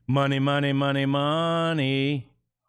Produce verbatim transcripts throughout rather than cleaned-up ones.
Money, money, money, money.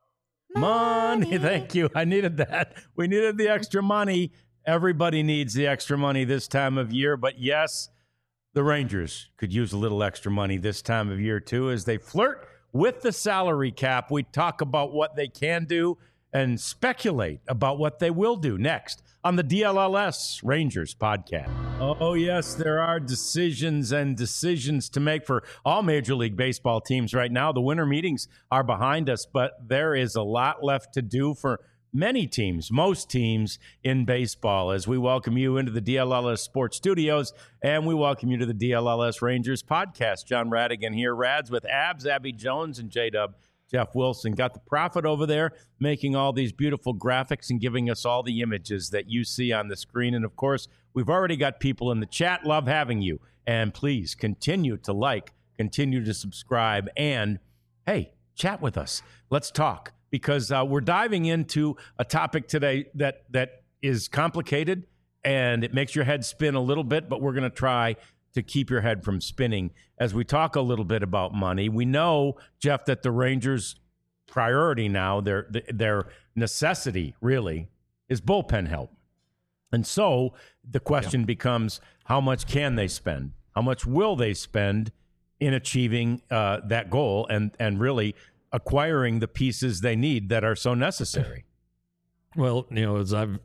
Money. Thank you. I needed that. We needed the extra money. Everybody needs the extra money this time of year. But yes, the Rangers could use a little extra money this time of year, too, as they flirt with the salary cap. We talk about what they can do and speculate about what they will do next on the D L L S Rangers podcast. Oh, yes, there are decisions and decisions to make for all Major League Baseball teams right now. The winter meetings are behind us, but there is a lot left to do for many teams, most teams in baseball, as we welcome you into the D L L S Sports Studios, and we welcome you to the D L L S Rangers podcast. John Radigan here, Rads with Abs, Abby Jones, and J-Dub. Jeff Wilson got the Prophet over there making all these beautiful graphics and giving us all the images that you see on the screen. And, of course, we've already got people in the chat. Love having you. And please continue to like, continue to subscribe, and, hey, chat with us. Let's talk, because uh, we're diving into a topic today that that is complicated, and it makes your head spin a little bit, but we're going to try to keep your head from spinning as we talk a little bit about money. We know, Jeff, that the Rangers' priority now, their their necessity really, is bullpen help. And so the question yeah. becomes, how much can they spend? How much will they spend in achieving uh, that goal and and really acquiring the pieces they need that are so necessary? Well, you know, as I've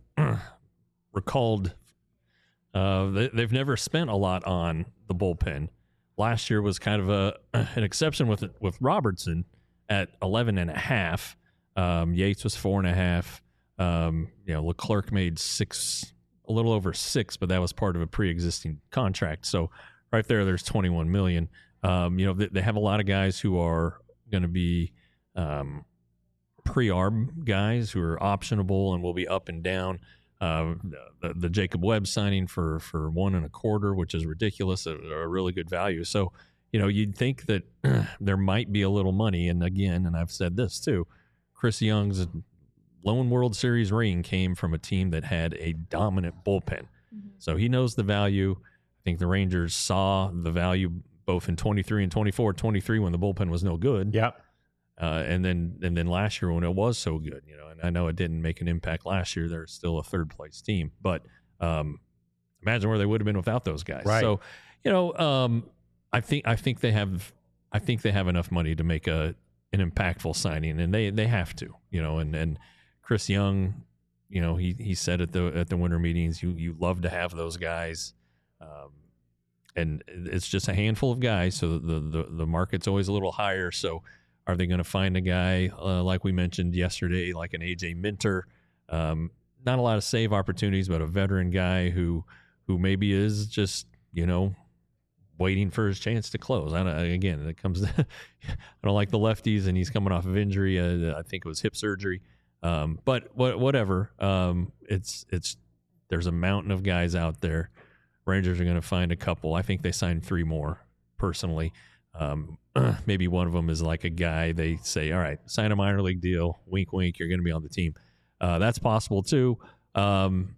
recalled, uh, they, they've never spent a lot on the bullpen. Last year was kind of a an exception with with Robertson at eleven and a half. Um, Yates was four and a half. Um, you know, Leclerc made six, a little over six, but that was part of a pre-existing contract. So right there, there's twenty-one million. Um, you know, they, they have a lot of guys who are going to be um, pre-arb guys who are optionable and will be up and down. Uh, the, the Jacob Webb signing for, for one and a quarter, which is ridiculous, a, a really good value. So, you know, you'd think that there might be a little money. And again, and I've said this too, Chris Young's lone World Series ring came from a team that had a dominant bullpen. Mm-hmm. So he knows the value. I think the Rangers saw the value both in twenty-three and twenty-four. twenty-three when the bullpen was no good. Yep. Uh, and then and then last year when it was so good, you know, and I know it didn't make an impact last year. They're still a third place team, but um, imagine where they would have been without those guys. Right. So, you know, um, I think I think they have I think they have enough money to make a an impactful signing, and they they have to, you know, and and Chris Young, you know, he he said at the at the winter meetings, you you love to have those guys. Um, and it's just a handful of guys, so the the the market's always a little higher. So are they going to find a guy uh, like we mentioned yesterday, like an A J Minter? Um, not a lot of save opportunities, but a veteran guy who who maybe is just, you know, waiting for his chance to close. I don't, again, it comes. To, I don't like the lefties, and he's coming off of injury. Uh, I think it was hip surgery. Um, but what, whatever. Um, it's it's there's a mountain of guys out there. Rangers are going to find a couple. I think they signed three more personally. Um, maybe one of them is like a guy they say, all right, sign a minor league deal. Wink, wink. You're going to be on the team. Uh, that's possible too. Um,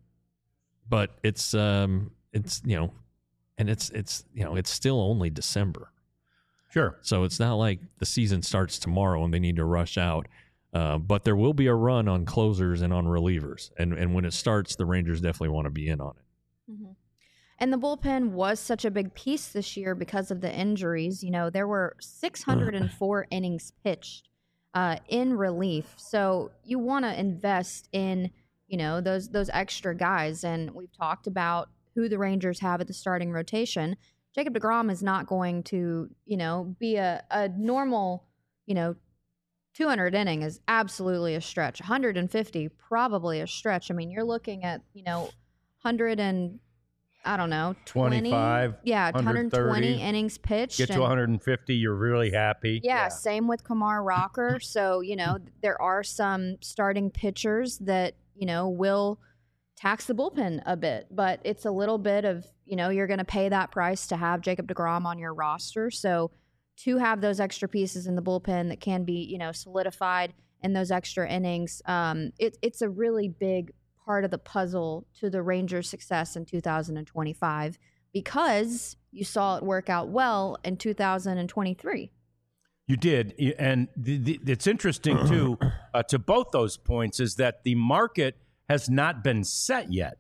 but it's, um, it's, you know, and it's, it's, you know, it's still only December. Sure. So it's not like the season starts tomorrow and they need to rush out. Uh, but there will be a run on closers and on relievers. And, and when it starts, the Rangers definitely want to be in on it. Mm-hmm. And the bullpen was such a big piece this year because of the injuries. You know, there were six hundred four innings pitched uh, in relief. So you want to invest in, you know, those those extra guys. And we've talked about who the Rangers have at the starting rotation. Jacob deGrom is not going to, you know, be a, a normal, you know, two hundred inning is absolutely a stretch. one hundred fifty, probably a stretch. I mean, you're looking at, you know, one hundred and I don't know, twenty, twenty-five, yeah, one hundred twenty innings pitched. Get to one hundred fifty, you're really happy. Yeah, yeah. Same with Kumar Rocker. So, you know, there are some starting pitchers that, you know, will tax the bullpen a bit, but it's a little bit of, you know, you're going to pay that price to have Jacob deGrom on your roster. So to have those extra pieces in the bullpen that can be, you know, solidified in those extra innings, um, it, it's a really big part of the puzzle to the Rangers' success in two thousand twenty-five, because you saw it work out well in two thousand twenty-three. You did, and the, the, it's interesting too. Uh, to both those points, is that the market has not been set yet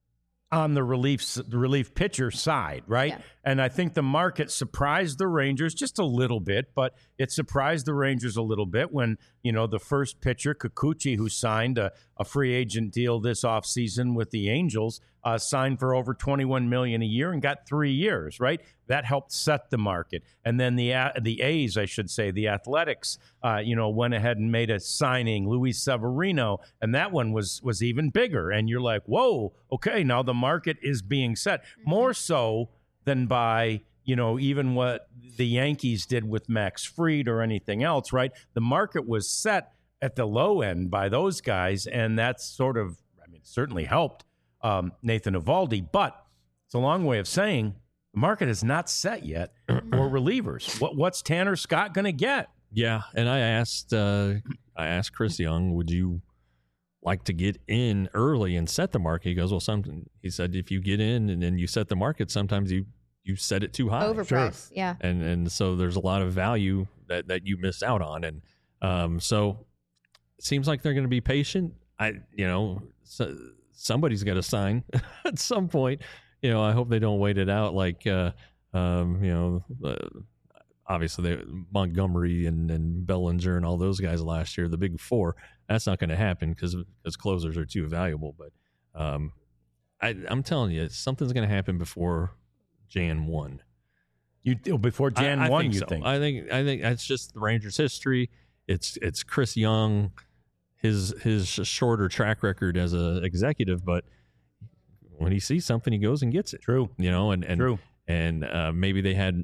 on the relief the relief pitcher side, right? Yeah. And I think the market surprised the Rangers just a little bit, but it surprised the Rangers a little bit when, you know, the first pitcher, Kikuchi, who signed a, a free agent deal this offseason with the Angels, uh, signed for over twenty-one million dollars a year and got three years, right? That helped set the market. And then the uh, the A's, I should say, the Athletics, uh, you know, went ahead and made a signing, Luis Severino, and that one was was even bigger. And you're like, whoa, okay, now the market is being set. Mm-hmm. More so than by, you know, even what the Yankees did with Max Fried or anything else, right? The market was set at the low end by those guys, and that's sort of, I mean, certainly helped um, Nathan Eovaldi, but it's a long way of saying the market is not set yet for relievers. What, what's Tanner Scott going to get? Yeah, and I asked, uh, I asked Chris Young, would you like to get in early and set the market? He goes, well, something. He said, if you get in and then you set the market, sometimes you you set it too high. Overpriced, sure. Yeah. And and so there's a lot of value that, that you miss out on. And um, so it seems like they're going to be patient. I, you know, so, somebody's got to sign at some point. You know, I hope they don't wait it out like, uh, um, you know, uh, obviously they, Montgomery and, and Bellinger and all those guys last year, the big four. That's not going to happen because because closers are too valuable. But um, I, I'm telling you, something's going to happen before January first. You before January first, you so. think? I think I think it's just the Rangers' history. It's it's Chris Young, his his shorter track record as an executive, but when he sees something, he goes and gets it. True, you know, and and True. and uh, maybe they had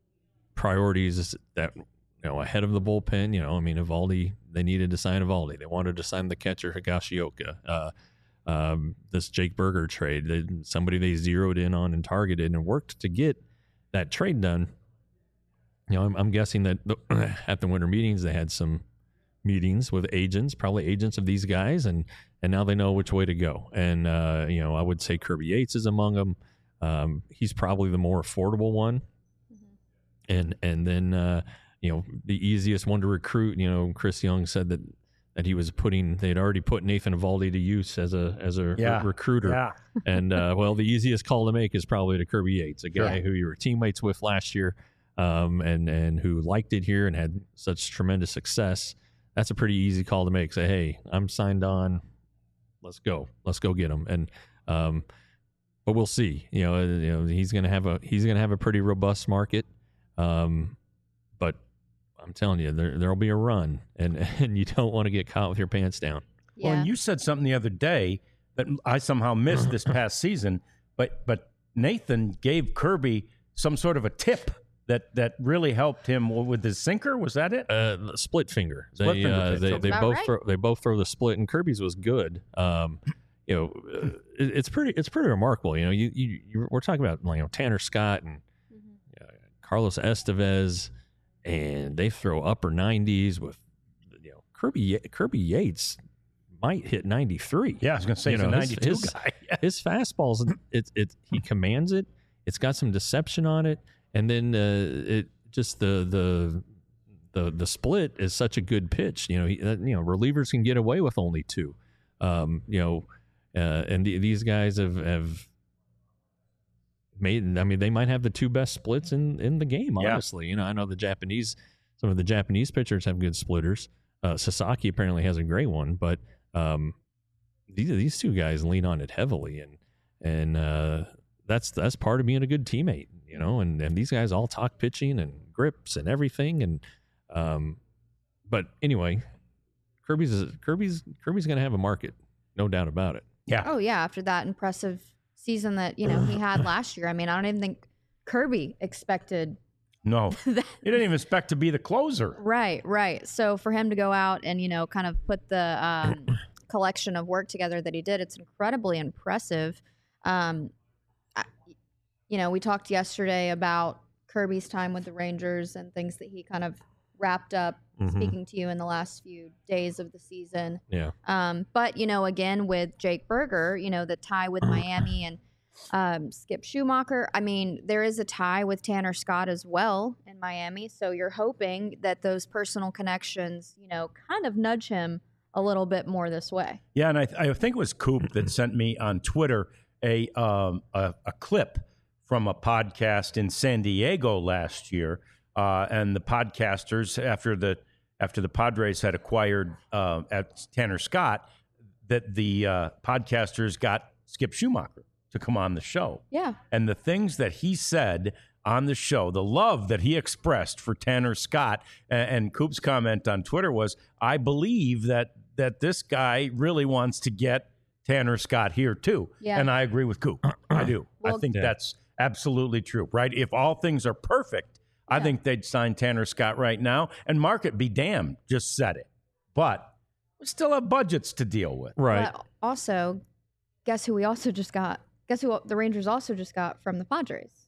priorities that, you know, ahead of the bullpen. You know, I mean, Eovaldi, they needed to sign Eovaldi. They wanted to sign the catcher Higashioka. Uh, um, this Jake Berger trade, they, somebody they zeroed in on and targeted and worked to get that trade done. You know, I'm, I'm guessing that the, at the winter meetings they had some meetings with agents, probably agents of these guys, and and now they know which way to go. And uh, you know, I would say Kirby Yates is among them. Um, he's probably the more affordable one. And and then, uh, you know, the easiest one to recruit, you know, Chris Young said that, that he was putting, they'd already put Nathan Eovaldi to use as a as a yeah. re- recruiter. Yeah. And, uh, well, the easiest call to make is probably to Kirby Yates, a guy Yeah. who you were teammates with last year um, and, and who liked it here and had such tremendous success. That's a pretty easy call to make. Say, hey, I'm signed on. Let's go. Let's go get him. And, um, but we'll see. You know, you know he's going to have a he's going to have a pretty robust market. Um, but I'm telling you, there there'll be a run, and and you don't want to get caught with your pants down. Yeah. Well, and you said something the other day that I somehow missed this past season, but but Nathan gave Kirby some sort of a tip that that really helped him with his sinker. Was that it? Uh, split finger. Split they finger uh, pitch. they, Sounds they about both right. throw, they both throw the split, and Kirby's was good. Um, you know, uh, it, it's pretty it's pretty remarkable. You know, you, you, you we're talking about, you know, Tanner Scott and Mhm. uh, Carlos Estevez, and they throw upper nineties with, you know, Kirby Kirby Yates might hit ninety-three. Yeah, I was going to say You he's a know, his- ninety-two his- guy. His fastballs, it it he commands it. It's got some deception on it, and then uh, it just the the the the split is such a good pitch. You know, he, uh, you know, relievers can get away with only two. Um, you know, uh, and the, these guys have have made. I mean, they might have the two best splits in in the game. Yeah. Honestly, you know, I know the Japanese, some of the Japanese pitchers have good splitters. Uh, Sasaki apparently has a great one, but um, these these two guys lean on it heavily, and and uh, that's that's part of being a good teammate, you know. And, and these guys all talk pitching and grips and everything, and um, but anyway, Kirby's Kirby's Kirby's going to have a market, no doubt about it. Yeah. Oh yeah, after that impressive season that you know he had last year. I mean, I don't even think Kirby expected No, that. he didn't even expect to be the closer. Right, right. So for him to go out and you know kind of put the um, collection of work together that he did, it's incredibly impressive. Um, I, you know, we talked yesterday about Kirby's time with the Rangers and things that he kind of wrapped up Mhm. speaking to you in the last few days of the season. Yeah, Um, but you know, again with Jake Berger, you know, the tie with Miami and um, Skip Schumacher. I mean, there is a tie with Tanner Scott as well, in Miami. So you're hoping that those personal connections, you know, kind of nudge him a little bit more this way. Yeah, and I, I think it was Coop that sent me on Twitter a, um, a a clip from a podcast in San Diego last year, uh, and the podcasters after the after the Padres had acquired uh, at Tanner Scott, that the uh, podcasters got Skip Schumacher to come on the show. Yeah, and the things that he said on the show, the love that he expressed for Tanner Scott, and, and Coop's comment on Twitter was, "I believe that that this guy really wants to get Tanner Scott here too." Yeah. And I agree with Coop. I do. Well, I think yeah. that's absolutely true, right? If all things are perfect, I Yeah. think they'd sign Tanner Scott right now, and market be damned, just said it. But we still have budgets to deal with. Right. But also, guess who we also just got? Guess who the Rangers also just got from the Padres?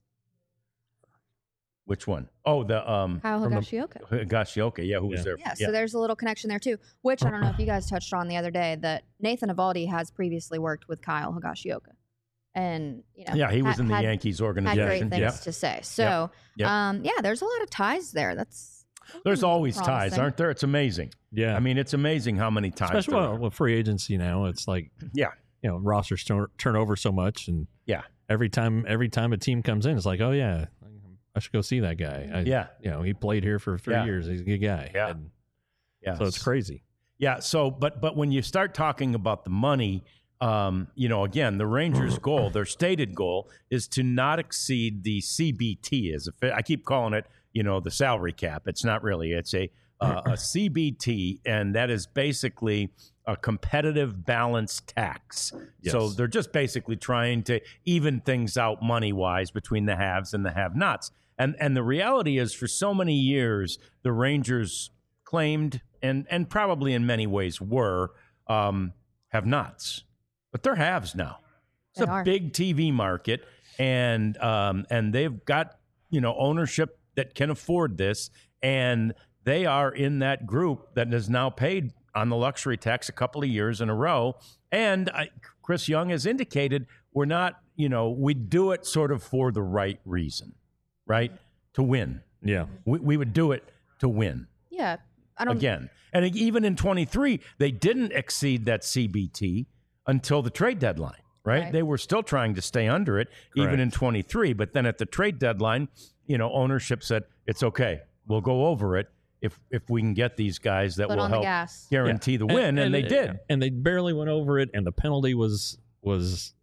Which one? Oh, the um, Kyle from the- Higashioka. Higashioka, yeah, who was Yeah. there? Yeah, so there's a little connection there too, which I don't know if you guys touched on the other day, that Nathan Eovaldi has previously worked with Kyle Higashioka. And, you know, yeah, he was had- in the had- Yankees had organization. great things Yeah. to say. So, Yep. um, yeah, there's a lot of ties there. That's There's always ties, promising. aren't there? It's amazing. Yeah. I mean, it's amazing how many ties. especially there well, are. with free agency now, it's like, Yeah. you know, rosters turn, turn over so much, and Yeah. every time every time a team comes in, it's like, oh yeah, I should go see that guy. I, Yeah. you know, he played here for three Yeah. years. He's a good guy. Yeah. And Yeah. so it's crazy. Yeah. So, but but when you start talking about the money, um, you know, again, the Rangers' goal, their stated goal, is to not exceed the C B T. As a, fi- I keep calling it, you know, the salary cap. It's not really. It's a uh, a C B T, and that is basically a competitive balance tax. So Yes. they're just basically trying to even things out money wise between the haves and the have-nots. And and the reality is, for so many years, the Rangers claimed, and and probably in many ways were, um, have-nots, but they're haves now. It's They a are. big T V market, and um, and they've got, you know, ownership that can afford this, and they are in that group that is now paid on the luxury tax a couple of years in a row. And I, Chris Young has indicated we're not, you know, we do it sort of for the right reason, right? To win. Yeah. We, we would do it to win yeah. I don't again. And even in twenty-three, they didn't exceed that C B T until the trade deadline, right? Right. They were still trying to stay under it, even Correct. in twenty-three. But then at the trade deadline, you know, ownership said, it's okay. We'll go over it if if we can get these guys that Foot will on the help gas. guarantee the win. And, they did. And they barely went over it, and the penalty was was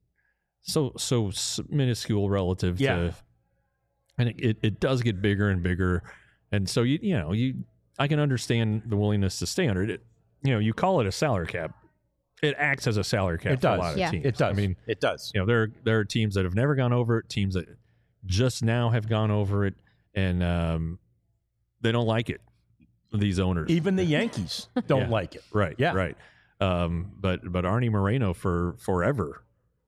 so so s- minuscule relative Yeah. to, and it, it, it does get bigger and bigger, and so you you know you I can understand the willingness to stay under it. It- You know, you call it a salary cap, it acts as a salary cap It for does. a lot of Yeah. teams. It does. I mean, it does. you know, there there are teams that have never gone over it, teams that just now have gone over it, and um, they don't like it. These owners, Even the Yankees don't Yeah. like it. right? Yeah. right. Um, but but Arnie Moreno for forever,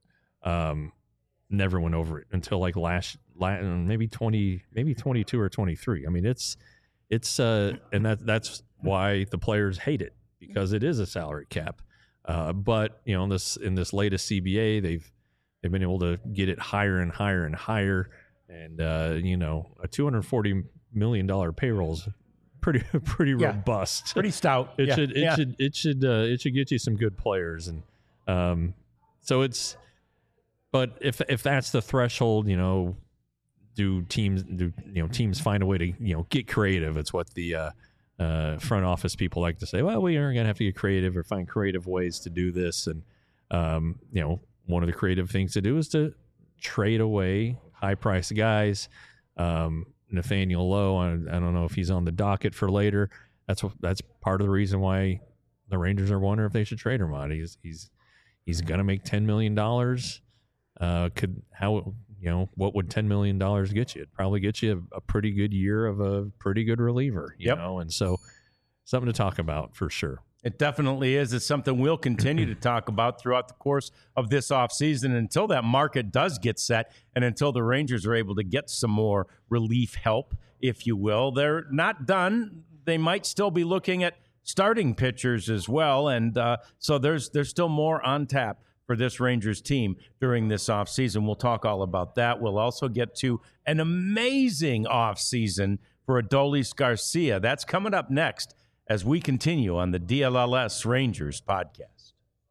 um, never went over it until like last, la maybe twenty, maybe twenty two or twenty three. I mean, it's it's uh, and that that's why the players hate it, because it is a salary cap. Uh, but you know, in this in this latest C B A, they've they've been able to get it higher and higher and higher, and uh, you know, a two hundred forty million dollar payroll is pretty pretty Yeah. robust. Pretty stout. It Yeah. should it Yeah. should it should uh, it should get you some good players, and um, so it's. But if if that's the threshold, you know, do teams do you know teams find a way to you know get creative? It's what the uh, uh, front office people like to say. Well, we are going to have to get creative or find creative ways to do this, and um, you know, one of the creative things to do is to trade away high priced guys. Um, Nathaniel Lowe, I, I don't know if he's on the docket for later. That's what, that's part of the reason why the Rangers are wondering if they should trade him out. He's he's he's going to make ten million dollars. Uh, could how you know what would ten million dollars get you? It'd probably get you a, a pretty good year of a pretty good reliever. You Yep. know, and so something to talk about for sure. It definitely is. It's something we'll continue to talk about throughout the course of this offseason until that market does get set and until the Rangers are able to get some more relief help, if you will. They're not done. They might still be looking at starting pitchers as well. And uh, so there's there's still more on tap for this Rangers team during this offseason. We'll talk all about that. We'll also get to an amazing offseason for Adolis Garcia. That's coming up next as we continue on the D L L S Rangers podcast.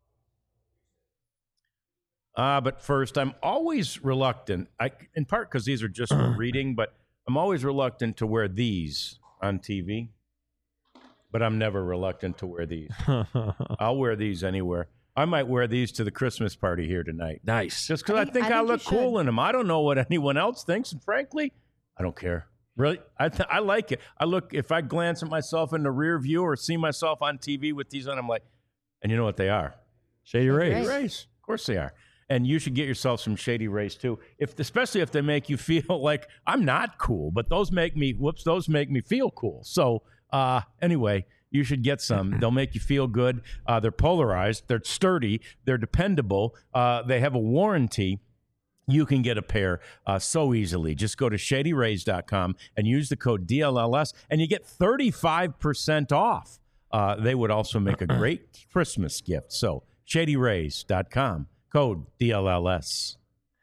Uh, but first, I'm always reluctant, I, in part because these are just for reading, but I'm always reluctant to wear these on T V. But I'm never reluctant to wear these. I'll wear these anywhere. I might wear these to the Christmas party here tonight. Nice. Just because I, I think think- I, I think look you cool should. in them. I don't know what anyone else thinks, and frankly, I don't care. Really, I th- I like it. I look, if I glance at myself in the rear view or see myself on T V with these on, I'm like, and you know what they are? Shady Rays. Rays. Rays. Of course they are. And you should get yourself some Shady Rays too, if especially if they make you feel like I'm not cool, but those make me whoops, those make me feel cool. So uh, anyway, you should get some. They'll make you feel good. Uh, they're polarized. They're sturdy. They're dependable. Uh, they have a warranty. You can get a pair uh, so easily. Just go to shady rays dot com and use the code D L L S, and you get thirty-five percent off. Uh, they would also make a great Christmas gift. So shady rays dot com, code D L L S.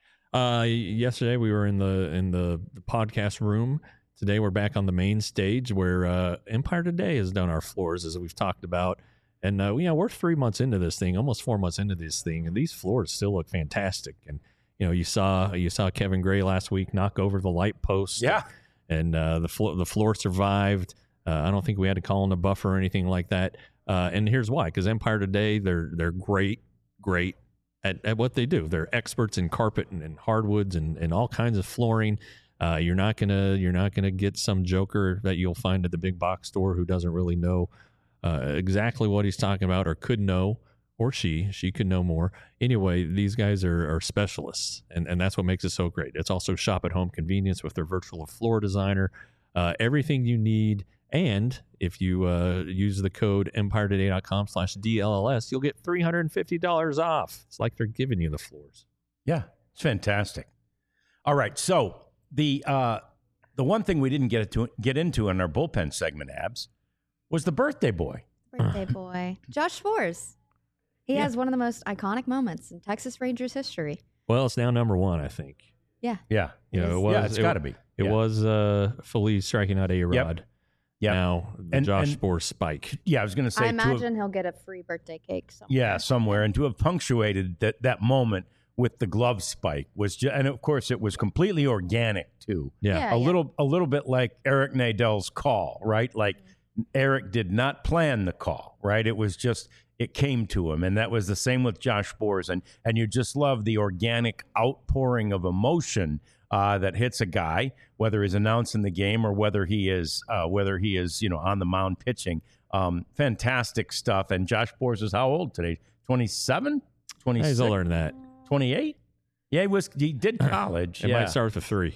Uh, yesterday we were in the in the, the podcast room. Today we're back on the main stage where uh, Empire Today has done our floors, as we've talked about. And uh, you know, we're three months into this thing, almost four months into this thing, and these floors still look fantastic. And you know, you saw you saw Kevin Gray last week knock over the light post. Yeah. And uh, the floor the floor survived. Uh, I don't think we had to call in a buffer or anything like that. Uh, and here's why: because Empire Today, they're they're great, great at, at what they do. They're experts in carpet and, and hardwoods and, and all kinds of flooring. Uh, you're not gonna you're not gonna get some joker that you'll find at the big box store who doesn't really know uh, exactly what he's talking about, or could know, or she she could know more. Anyway, these guys are, are specialists, and, and that's what makes it so great. It's also shop at home convenience with their virtual floor designer. Uh, everything you need. And if you uh, use the code empire today dot com slash D L L S, you'll get three hundred fifty dollars off. It's like they're giving you the floors. Yeah, it's fantastic. All right, so the uh, the one thing we didn't get to get into in our bullpen segment, Abs, was the birthday boy. Birthday boy. Josh Sborz. He Yeah. has one of the most iconic moments in Texas Rangers history. Well, it's now number one, I think. Yeah. Yeah, You know, It it is. was, yeah, it's it, got to be. It yeah. was uh, Feliz striking out A-Rod. Yep. Now, the And- Josh and- Sborz spike. Yeah, I was going to say. I to have- imagine he'll get a free birthday cake somewhere. Yeah, somewhere, and to have punctuated that that moment with the glove spike was, just, and of course, it was completely organic too. Yeah. Yeah. a little, a little bit like Eric Nadell's call, right? Like Eric did not plan the call, right? It was just it came to him, and that was the same with Josh Sborz, and and you just love the organic outpouring of emotion uh, that hits a guy, whether he's announcing the game or whether he is uh, whether he is you know on the mound pitching. Um, fantastic stuff. And Josh Sborz is how old today? twenty-seven, twenty-six, He's older than that. twenty-eight. Yeah, he was. He did college. It yeah. might start with a three.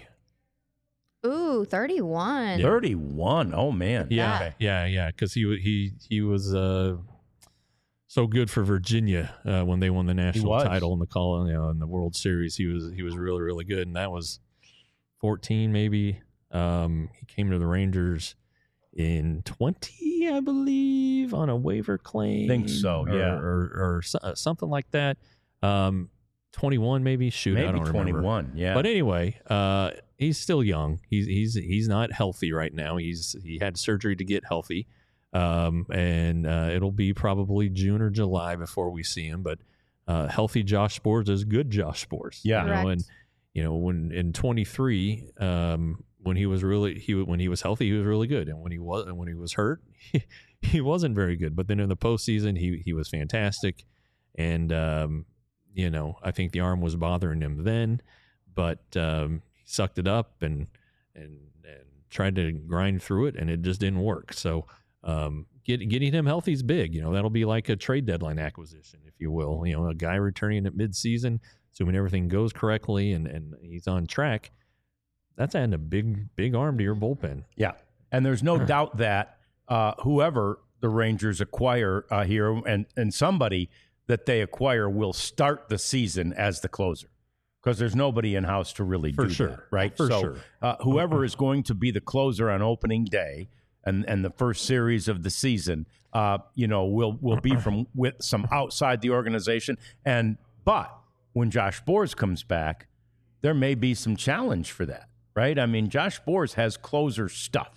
Ooh, thirty-one. thirty-one. Oh man. Yeah, Okay. yeah, yeah. Because he wa- he he was uh, so good for Virginia uh, when they won the national was. title in the call, you know, in the World Series. He was he was really really good, and that was fourteen maybe. Um, he came to the Rangers in twenty, I believe, on a waiver claim. Think so, or, yeah. or or, so- uh, something like that. Um, twenty-one maybe. Shoot, I Maybe don't remember. twenty-one. Yeah. But anyway, uh, he's still young. He's he's he's not healthy right now. He's he had surgery to get healthy, um, and uh, it'll be probably June or July before we see him. But uh, healthy Josh Sborz is good Josh Sborz. Yeah. you know, Correct. and you know when in twenty-three, um, when he was really he when he was healthy, he was really good, and when he was and when he was hurt, he, he wasn't very good. But then in the postseason, he he was fantastic, and um, you know I think the arm was bothering him then, but um, he sucked it up and and and tried to grind through it, and it just didn't work. So um, get, getting him healthy is big. You know that'll be like a trade deadline acquisition, if you will. You know, a guy returning at midseason, assuming everything goes correctly and and he's on track. That's adding a big big arm to your bullpen. yeah. And there's no doubt that uh, whoever the Rangers acquire uh, here and and somebody that they acquire will start the season as the closer, because there's nobody in house to really For do sure. that, right? For so sure. uh, whoever is going to be the closer on opening day and and the first series of the season, uh, you know, will will be from with some outside the organization. And but when Josh Sborz comes back, there may be some challenge for that, right? I mean, Josh Sborz has closer stuff.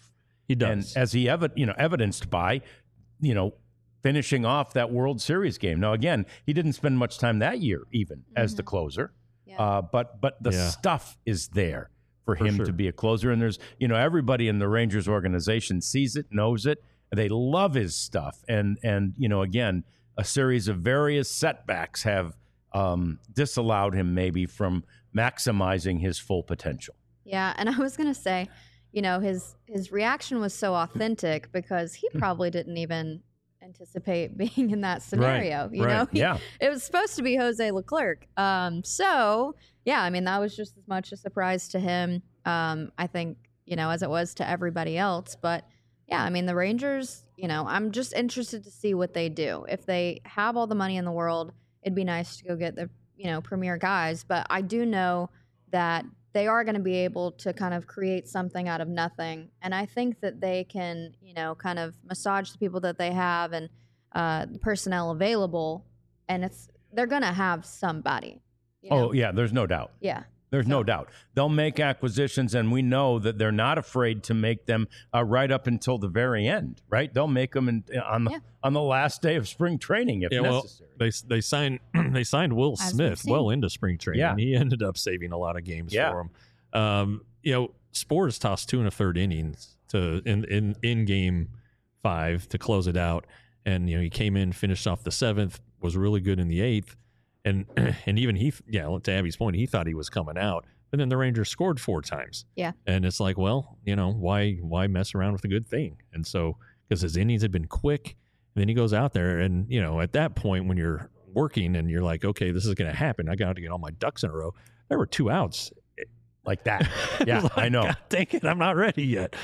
He does. And as he evi- you know, evidenced by, you know, finishing off that World Series game. Now, again, he didn't spend much time that year even mm-hmm. as the closer, yeah. uh, but but the yeah. stuff is there for, for him sure. to be a closer. And there's, you know, everybody in the Rangers organization sees it, knows it. They love his stuff. And, and you know, again, a series of various setbacks have um, disallowed him maybe from maximizing his full potential. Yeah, and I was going to say, you know, his his reaction was so authentic because he probably didn't even anticipate being in that scenario. Right, you right. know, he, yeah, it was supposed to be Jose Leclerc. Um, so yeah, I mean, that was just as much a surprise to him. Um, I think, you know, as it was to everybody else. But yeah, I mean, the Rangers, you know, I'm just interested to see what they do. If they have all the money in the world, it'd be nice to go get the, you know, premier guys. But I do know that they are going to be able to kind of create something out of nothing. And I think that they can, you know, kind of massage the people that they have and uh, the personnel available. And it's they're going to have somebody. You know? Oh, yeah, there's no doubt. Yeah. There's so. no doubt. They'll make acquisitions, and we know that they're not afraid to make them uh, right up until the very end, right? They'll make them in, on, the, yeah. on the last day of spring training if yeah, necessary. Well, they, they, signed, they signed Will As Smith well into spring training. Yeah. He ended up saving a lot of games yeah. for him. Um, you know, Spores tossed two and a third innings to in, in, in game five to close it out. And, you know, he came in, finished off the seventh, was really good in the eighth. And and even he, yeah, to Abby's point, he thought he was coming out. But then the Rangers scored four times. Yeah. And it's like, well, you know, why why mess around with a good thing? And so, because his innings had been quick, and then he goes out there, and, you know, at that point when you're working and you're like, okay, this is going to happen, I got to get all my ducks in a row. There were two outs. Like that. Yeah, like, I know. God dang it, I'm not ready yet.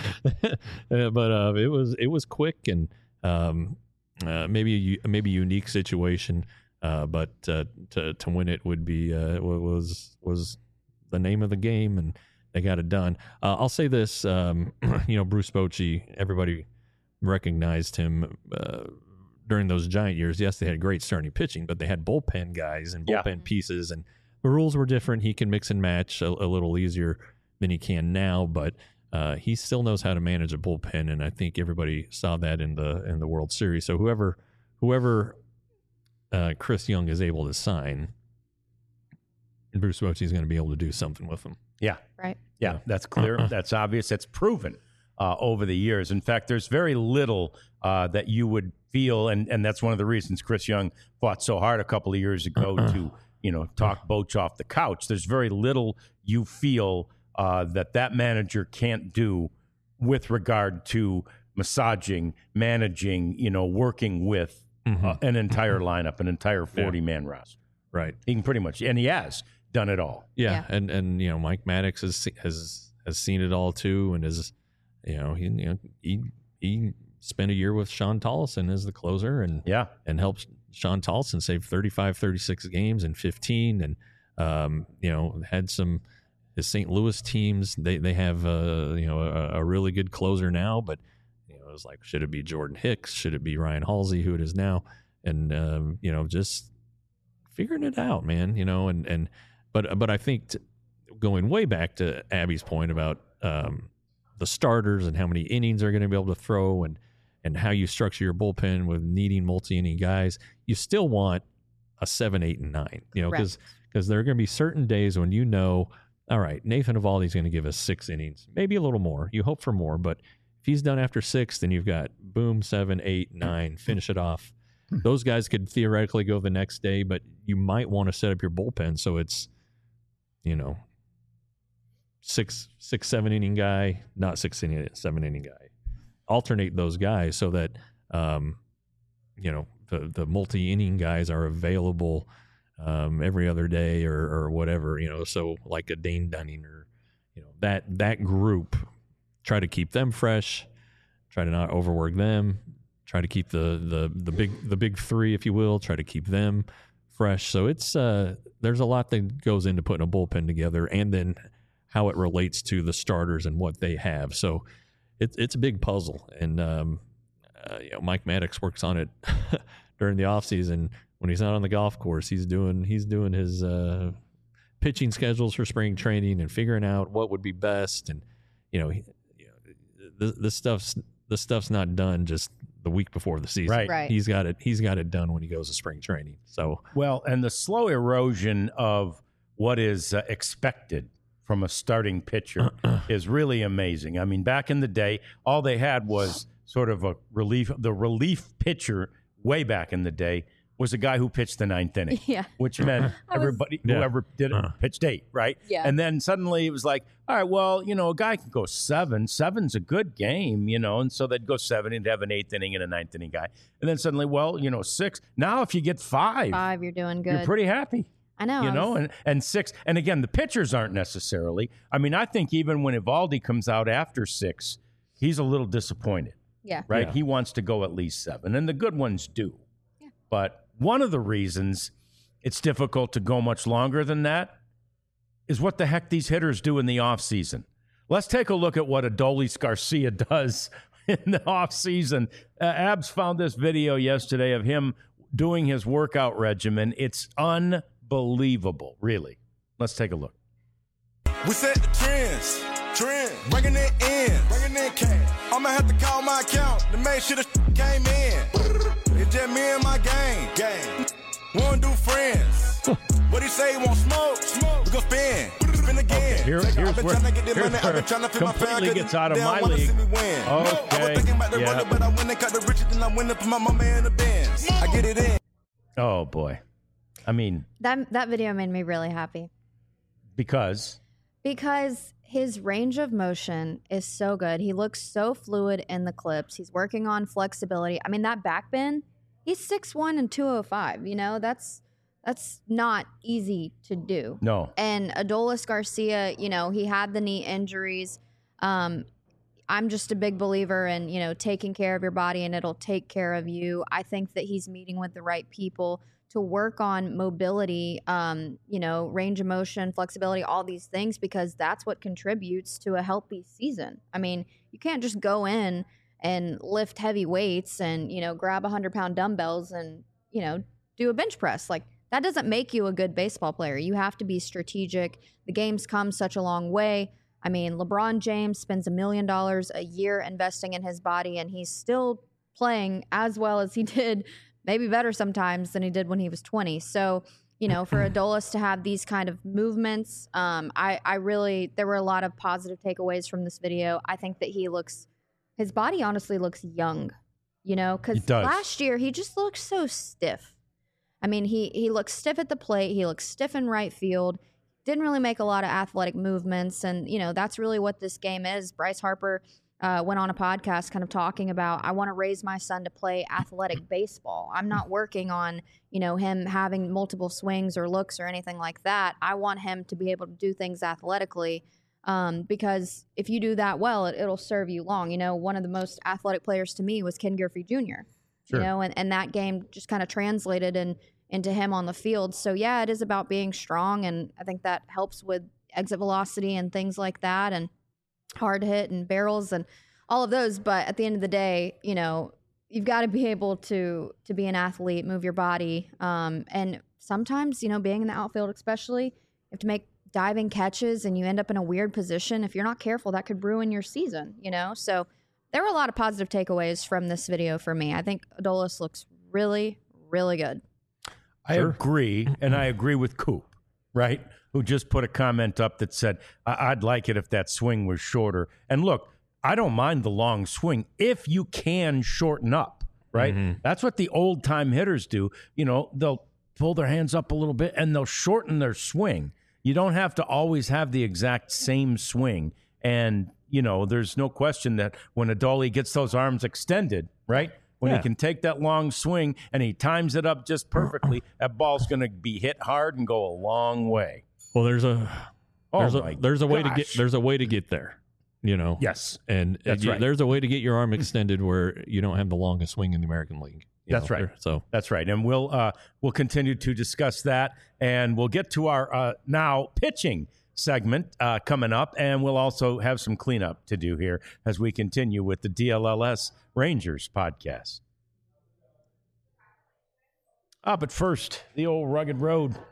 uh, but uh, it was it was quick and um, uh, maybe a maybe unique situation. Uh, but uh, to to win it would be uh, was was the name of the game, and they got it done. Uh, I'll say this, um, you know, Bruce Bochy, everybody recognized him uh, during those Giant years. Yes, they had great starting pitching, but they had bullpen guys and bullpen yeah. pieces, and the rules were different. He can mix and match a, a little easier than he can now, but uh, he still knows how to manage a bullpen, and I think everybody saw that in the in the World Series. So whoever whoever. Uh, Chris Young is able to sign, and Bruce Bochy is going to be able to do something with him. Yeah. Right. Yeah, that's clear. Uh-uh. That's obvious. That's proven uh, over the years. In fact, there's very little uh, that you would feel, and, and that's one of the reasons Chris Young fought so hard a couple of years ago uh-uh. to, you know, talk Boch off the couch. There's very little you feel uh, that that manager can't do with regard to massaging, managing, you know, working with Mm-hmm. Uh, an entire lineup, an entire forty-man yeah. roster. Right. He can pretty much, and he has done it all. Yeah, yeah. and and you know, Mike Maddox has has has seen it all too, and is, you know, he you know he he spent a year with Sean Tollison as the closer, and yeah, and helped Sean Tollison save thirty-five, thirty-six games in fifteen, and um, you know, had some his Saint Louis teams. They they have uh you know a, a really good closer now, but. It was like, should it be Jordan Hicks? Should it be Ryan Halsey, who it is now? And, um, you know, just figuring it out, man, you know, and, and, but, but I think t- going way back to Abby's point about, um, the starters and how many innings they're going to be able to throw and, and how you structure your bullpen with needing multi-inning guys, you still want a seven, eight, and nine, you know, because, because there are going to be certain days when, you know, all right, Nathan Eovaldi's going to give us six innings, maybe a little more. You hope for more, but if he's done after six, then you've got boom, seven, eight, nine, finish it off. Those guys could theoretically go the next day, but you might want to set up your bullpen so it's, you know, six, six, seven inning guy, not six inning, seven inning guy. Alternate those guys so that, um, you know, the the multi inning guys are available um, every other day or or whatever. You know, so like a Dane Dunning or, you know, that that group. Try to keep them fresh, try to not overwork them, try to keep the the the big the big three, if you will, try to keep them fresh. So it's uh there's a lot that goes into putting a bullpen together, and then how it relates to the starters and what they have. So it's it's a big puzzle, and um uh, you know, Mike Maddox works on it during the off season. When he's not on the golf course, he's doing he's doing his uh pitching schedules for spring training and figuring out what would be best. And you know, he, The this, this stuff's this stuff's not done just the week before the season. Right. Right. He's got it. He's got it done when he goes to spring training. So Well, and the slow erosion of what is uh, expected from a starting pitcher is really amazing. I mean, back in the day, all they had was sort of a relief. The relief pitcher way back in the day was a guy who pitched the ninth inning, Yeah. which meant was- everybody, Yeah. whoever did it, Uh. pitched eight, right? Yeah. And then suddenly it was like, all right, well, you know, a guy can go seven. Seven's a good game, you know, and so they'd go seven and have an eighth inning and a ninth inning guy. And then suddenly, well, you know, six. Now if you get five, Five, you're doing good. you're pretty happy. I know. You I know, was- and, and six, and again, the pitchers aren't necessarily. I mean, I think even when Evaldi comes out after six, he's a little disappointed, yeah. right? Yeah. He wants to go at least seven, and the good ones do. Yeah. But one of the reasons it's difficult to go much longer than that is what the heck these hitters do in the offseason. Let's take a look at what Adolis Garcia does in the offseason. Uh, Abs found this video yesterday of him doing his workout regimen. It's unbelievable, really. Let's take a look. We set the trends, trends, bringing it in, bringing in cash. I'ma have to call my account to make sure the came in. It's just me and my gang, gang. Wanna do friends. What he say? Want smoke? Smoke. We gon' spin, spin again. Okay, here- I've here's been where- tryna get this here's money. I've where been tryna fit my fan. completely gets out of They don't my wanna league. see me win. I was Okay, thinking about the yeah. roller, but I went and cut the riches, and I went and put my mama in the Benz. I get it in. Oh, boy. I mean, That that video made me really happy because because his range of motion is so good. He looks so fluid in the clips. He's working on flexibility. I mean, that back bend, he's six one and two oh five, you know? That's that's not easy to do. no. And Adolis Garcia, you know, he had the knee injuries. Um, I'm just a big believer in, you know, taking care of your body and it'll take care of you. I think that he's meeting with the right people to work on mobility, um, you know, range of motion, flexibility, all these things, because that's what contributes to a healthy season. I mean, you can't just go in and lift heavy weights and, you know, grab one hundred pound dumbbells and, you know, do a bench press. Like, that doesn't make you a good baseball player. You have to be strategic. The game's come such a long way. I mean, LeBron James spends a million dollars a year investing in his body, and he's still playing as well as he did, maybe better sometimes than he did when he was twenty. So, you know, for Adolis to have these kind of movements, um, I, I really, there were a lot of positive takeaways from this video. I think that he looks, his body honestly looks young, you know, because It does. last year he just looked so stiff. I mean, he he looks stiff at the plate. He looks stiff in right field. Didn't really make a lot of athletic movements. And, you know, that's really what this game is. Bryce Harper uh, went on a podcast kind of talking about, I want to raise my son to play athletic baseball. I'm not working on, you know, him having multiple swings or looks or anything like that. I want him to be able to do things athletically um, because if you do that well, it, it'll serve you long. You know, one of the most athletic players to me was Ken Griffey Junior Sure. You know, and, and that game just kind of translated and into him on the field. So yeah, it is about being strong, and I think that helps with exit velocity and things like that, and hard hit and barrels and all of those. But at the end of the day, you know, you've got to be able to to be an athlete, move your body, um, and sometimes, you know, being in the outfield, especially, you have to make diving catches, and you end up in a weird position. If you're not careful, that could ruin your season. You know, so there were a lot of positive takeaways from this video for me. I think Adolis looks really, really good. I Sure. agree, and I agree with Coop, right? Who just put a comment up that said, I- I'd like it if that swing was shorter. And look, I don't mind the long swing if you can shorten up, right? Mhm. That's what the old time hitters do. You know, they'll pull their hands up a little bit and they'll shorten their swing. You don't have to always have the exact same swing. And, you know, there's no question that when Adolis gets those arms extended, right? When Yeah. he can take that long swing and he times it up just perfectly, that ball's going to be hit hard and go a long way. Well, there's a Oh there's my a there's a way to get gosh. there's a way to get there, you know. Yes, And uh, That's you- right. there's a way to get your arm extended where you don't have the longest swing in the American League. you That's know, right. there- So that's right. And we'll uh, we'll continue to discuss that, and we'll get to our uh, now pitching segment uh, coming up, and we'll also have some cleanup to do here as we continue with the D L L S Rangers podcast. Ah, but first, the old rugged road.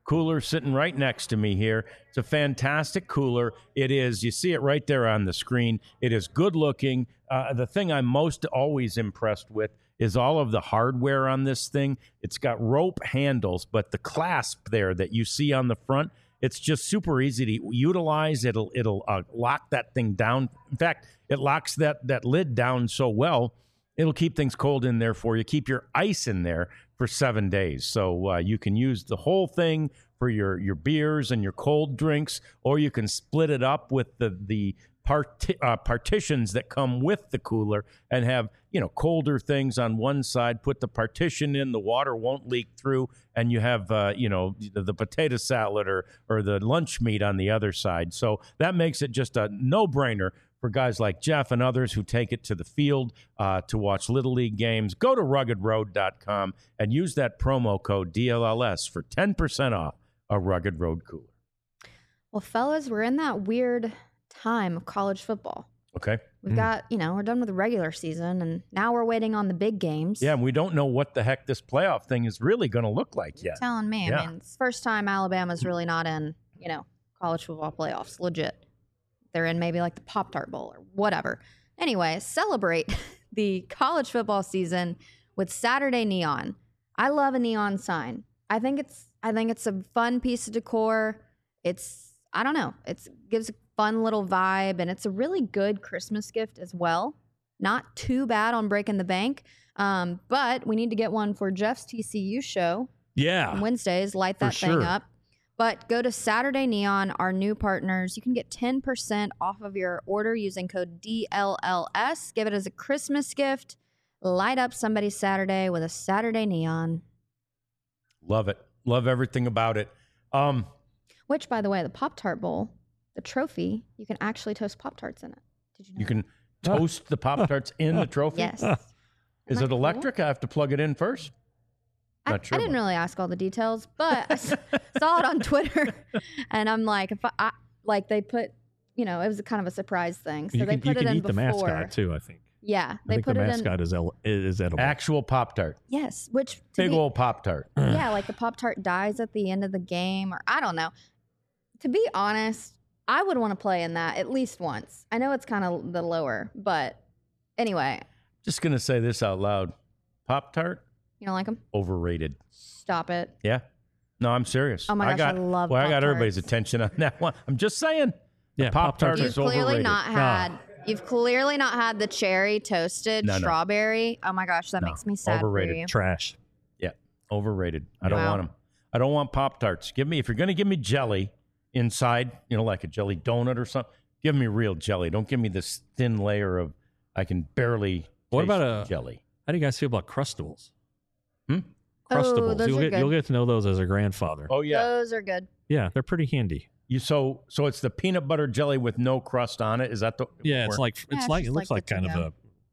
cooler sitting right next to me here. It's a fantastic cooler. It is. You see it right there on the screen. It is good looking. Uh, the thing I'm most always impressed with is all of the hardware on this thing. It's got rope handles, but the clasp there that you see on the front, it's just super easy to utilize. It'll it'll uh, lock that thing down. In fact, it locks that that lid down so well, it'll keep things cold in there for you. Keep your ice in there for seven days. So uh, you can use the whole thing for your, your beers and your cold drinks, or you can split it up with the the part, uh, partitions that come with the cooler and have, you know, colder things on one side. Put the partition in, the water won't leak through, and you have, uh, you know, the, the potato salad or or the lunch meat on the other side. So that makes it just a no-brainer for guys like Jeff and others who take it to the field uh, to watch Little League games. Go to rugged road dot com and use that promo code D L L S for ten percent off a Rugged Road cooler. Well, fellas, we're in that weird time of college football. Okay. We've mm. got, you know, we're done with the regular season, and now we're waiting on the big games. Yeah, and we don't know what the heck this playoff thing is really going to look like You're yet. telling me. Yeah. I mean, it's the first time Alabama's really not in, you know, college football playoffs. Legit. They're in maybe like the Pop-Tart Bowl or whatever. Anyway, celebrate the college football season with Saturday Neon. I love a neon sign. I think it's I think it's a fun piece of decor. It's, I don't know, it gives a fun little vibe, and it's a really good Christmas gift as well. Not too bad on Breaking the Bank, um, but we need to get one for Jeff's T C U show. Yeah. On Wednesdays, light that For thing sure. up. But go to Saturday Neon, our new partners. You can get ten percent off of your order using code D L L S. Give it as a Christmas gift. Light up somebody's Saturday with a Saturday Neon. Love it. Love everything about it. Um, Which, by the way, the Pop-Tart Bowl, the trophy, you can actually toast Pop-Tarts in it. Did you know you that? can toast the Pop-Tarts in the trophy? Yes. Is Isn't it that electric? I have to plug it in first? I, Not sure I didn't about really ask all the details, but I s- saw it on Twitter, and I'm like, if I, I like they put, you know, it was a kind of a surprise thing, so you they can, put you it can in eat the before. mascot too, I think. Yeah, I they think put the it mascot in. is, el- is edible. Actual Pop-Tart. Yes, which to Big be- old Pop-Tart. yeah, like the Pop-Tart dies at the end of the game, or I don't know. To be honest, I would want to play in that at least once. I know it's kind of the lower, but anyway, Just going to say this out loud. Pop-Tart, you don't like them? overrated. Stop it. Yeah. No, I'm serious. Oh my I gosh, got, I love Well, I got Pop-Tarts. everybody's attention on that one. I'm just saying. The Yeah, Pop-Tarts Pop-Tarts You've is clearly overrated. not had. You've clearly not had the cherry toasted No, no. strawberry. Oh my gosh, that No, makes me sad overrated. for you. Trash. Yeah, overrated. I don't Wow. want them. I don't want Pop-Tarts. Give me, if you're going to give me jelly inside, you know, like a jelly donut or something, give me real jelly. Don't give me this thin layer of, I can barely What taste about a- jelly. How do you guys feel about Crustables? Hmm? Crustables. Oh, those you'll are get good. you'll get to know those as a grandfather. Oh, yeah. Those are good. Yeah, they're pretty handy. You so so it's the peanut butter jelly with no crust on it. Is that the Yeah, it's where- like Yeah, it's it's like it just looks like like the kind of to-go. a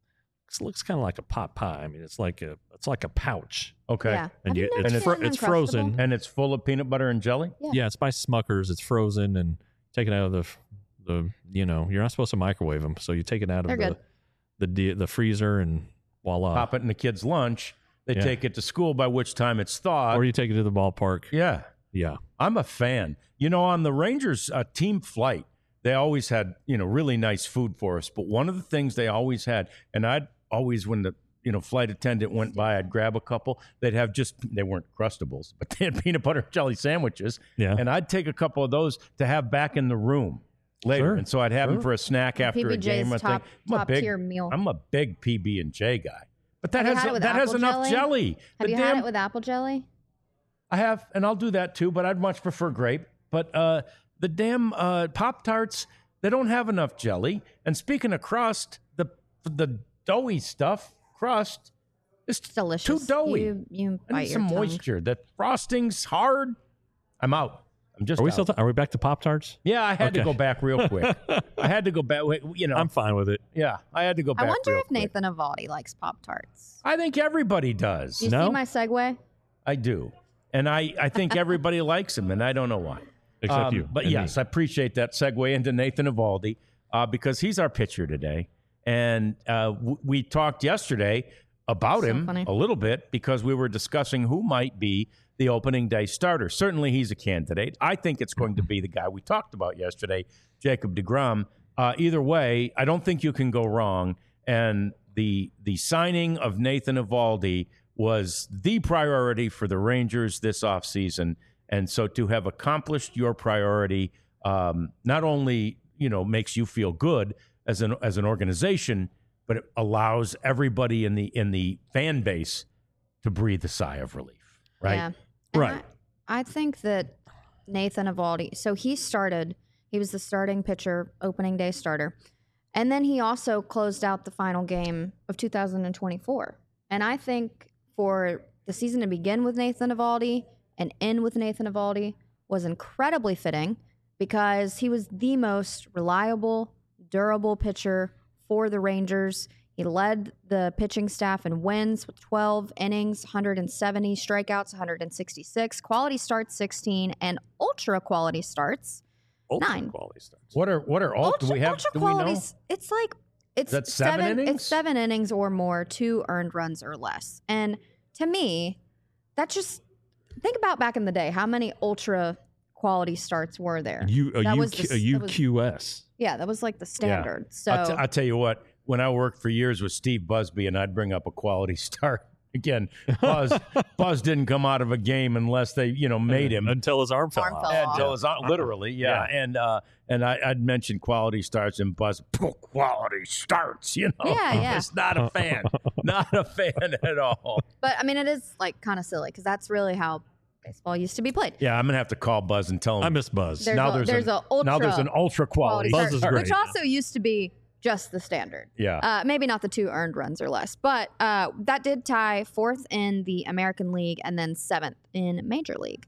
it looks kind of like a pot pie. I mean, it's like a it's like a pouch. okay, Yeah. And Have you- you it's never fro- been it's Uncrustable? frozen. and it's full of peanut butter and jelly. Yeah. Yeah, it's by Smuckers. It's frozen and take it out of the f- the you know you're not supposed to microwave them, so you take it out of They're the good. the the the freezer and voila. Pop it in the kid's lunch. They Yeah. take it to school, by which time it's thawed. Or you take it to the ballpark. yeah, Yeah. I'm a fan. You know, on the Rangers uh, team flight, they always had, you know, really nice food for us. But one of the things they always had, and I'd always, when the, you know, flight attendant went by, I'd grab a couple. They'd have just, they weren't Crustables, but they had peanut butter and jelly sandwiches. Yeah. And I'd take a couple of those to have back in the room later. Sure. And so I'd have them Sure. for a snack after P B a game. I J's top, think. I'm a top big, tier meal. I'm a big P B and J guy. But that Have you has had it with that has apple enough jelly? jelly. Have The you damn- had it with apple jelly? I have, and I'll do that too, but I'd much prefer grape. But uh, the damn uh, Pop-Tarts, they don't have enough jelly. And speaking of crust, the the doughy stuff, crust, is It's delicious. too doughy. You, you I bite need your some tongue. moisture. The frosting's hard. I'm out. I'm just Are we out. still? T- are we back to Pop Tarts? yeah, I had to Okay. go back real quick. I had to go back. You know, I'm fine with it. yeah, I had to go I back wonder real if quick. Nathan Avaldi likes Pop-Tarts. I think everybody does. Do you No? see my segue? I do. And I, I think everybody likes him, and I don't know why. Except Um, you. But and me. yes, I appreciate that segue into Nathan Avaldi uh, because he's our pitcher today. And uh, w- we talked yesterday about So him funny. a little bit because we were discussing who might be the opening day starter. Certainly he's a candidate. I think it's going to be the guy we talked about yesterday, Jacob deGrom. Uh, either way, I don't think you can go wrong. And the the signing of Nathan Eovaldi was the priority for the Rangers this offseason. And so to have accomplished your priority um, not only, you know, makes you feel good as an as an organization, but it allows everybody in the in the fan base to breathe a sigh of relief, right? Yeah. And Right. I, I think that Nathan Eovaldi, so he started, he was the starting pitcher, opening day starter. And then he also closed out the final game of two thousand twenty-four. And I think for the season to begin with Nathan Eovaldi and end with Nathan Eovaldi was incredibly fitting because he was the most reliable, durable pitcher for the Rangers. He led the pitching staff in wins with twelve innings, one hundred seventy strikeouts, one hundred sixty-six, quality starts sixteen, and ultra quality starts Ultra nine. quality starts. What are what are all? Ultra, do we have? ultra Do we know? qualities. It's like it's that seven innings? It's seven innings or more, two earned runs or less. And to me, that just think about back in the day. How many ultra quality starts were there? You a, That U, was the- a that U was- Q S. Yeah, that was like the standard. So I'll, t- I'll tell you what. When I worked for years with Steve Busby, and I'd bring up a quality start again. Buzz Buzz didn't come out of a game unless they, you know, made him. until his arm fell Arm out. fell Yeah, off. until his, literally, yeah. Yeah. And uh, and I, I'd mention quality starts, and Buzz, quality starts. You know, Yeah, yeah. Just not a fan, not a fan at all. But I mean, it is like kind of silly because that's really how baseball used to be played. Yeah, I'm gonna have to call Buzz and tell him. I miss Buzz. There's now a- there's, there's an, a ultra now there's an ultra quality. Buzz start, is which great. also used to be just the standard. Yeah. Uh, maybe not the two earned runs or less, but uh, that did tie fourth in the American League and then seventh in Major League.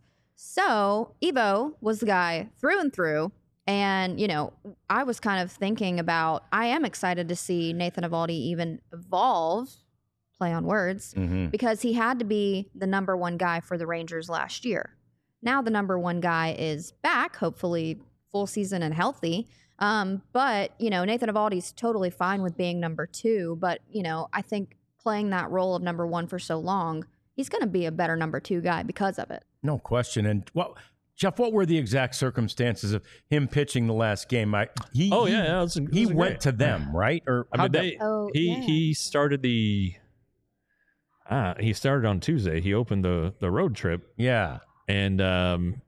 So Evo was the guy through and through. And, you know, I was kind of thinking about, I am excited to see Nathan Eovaldi even evolve, play on words, Mhm. because he had to be the number one guy for the Rangers last year. Now the number one guy is back, hopefully full season and healthy. Um, but, you know, Nathan Eovaldi's totally fine with being number two. But, you know, I think playing that role of number one for so long, he's going to be a better number two guy because of it. No question. And well, Jeff, what were the exact circumstances of him pitching the last game? I, he, Oh he, yeah, yeah, it was, it he was went great. to them, right? Or I mean, how'd that- they, Oh, he yeah. he started the. Ah, he started on Tuesday. He opened the the road trip, yeah. and um,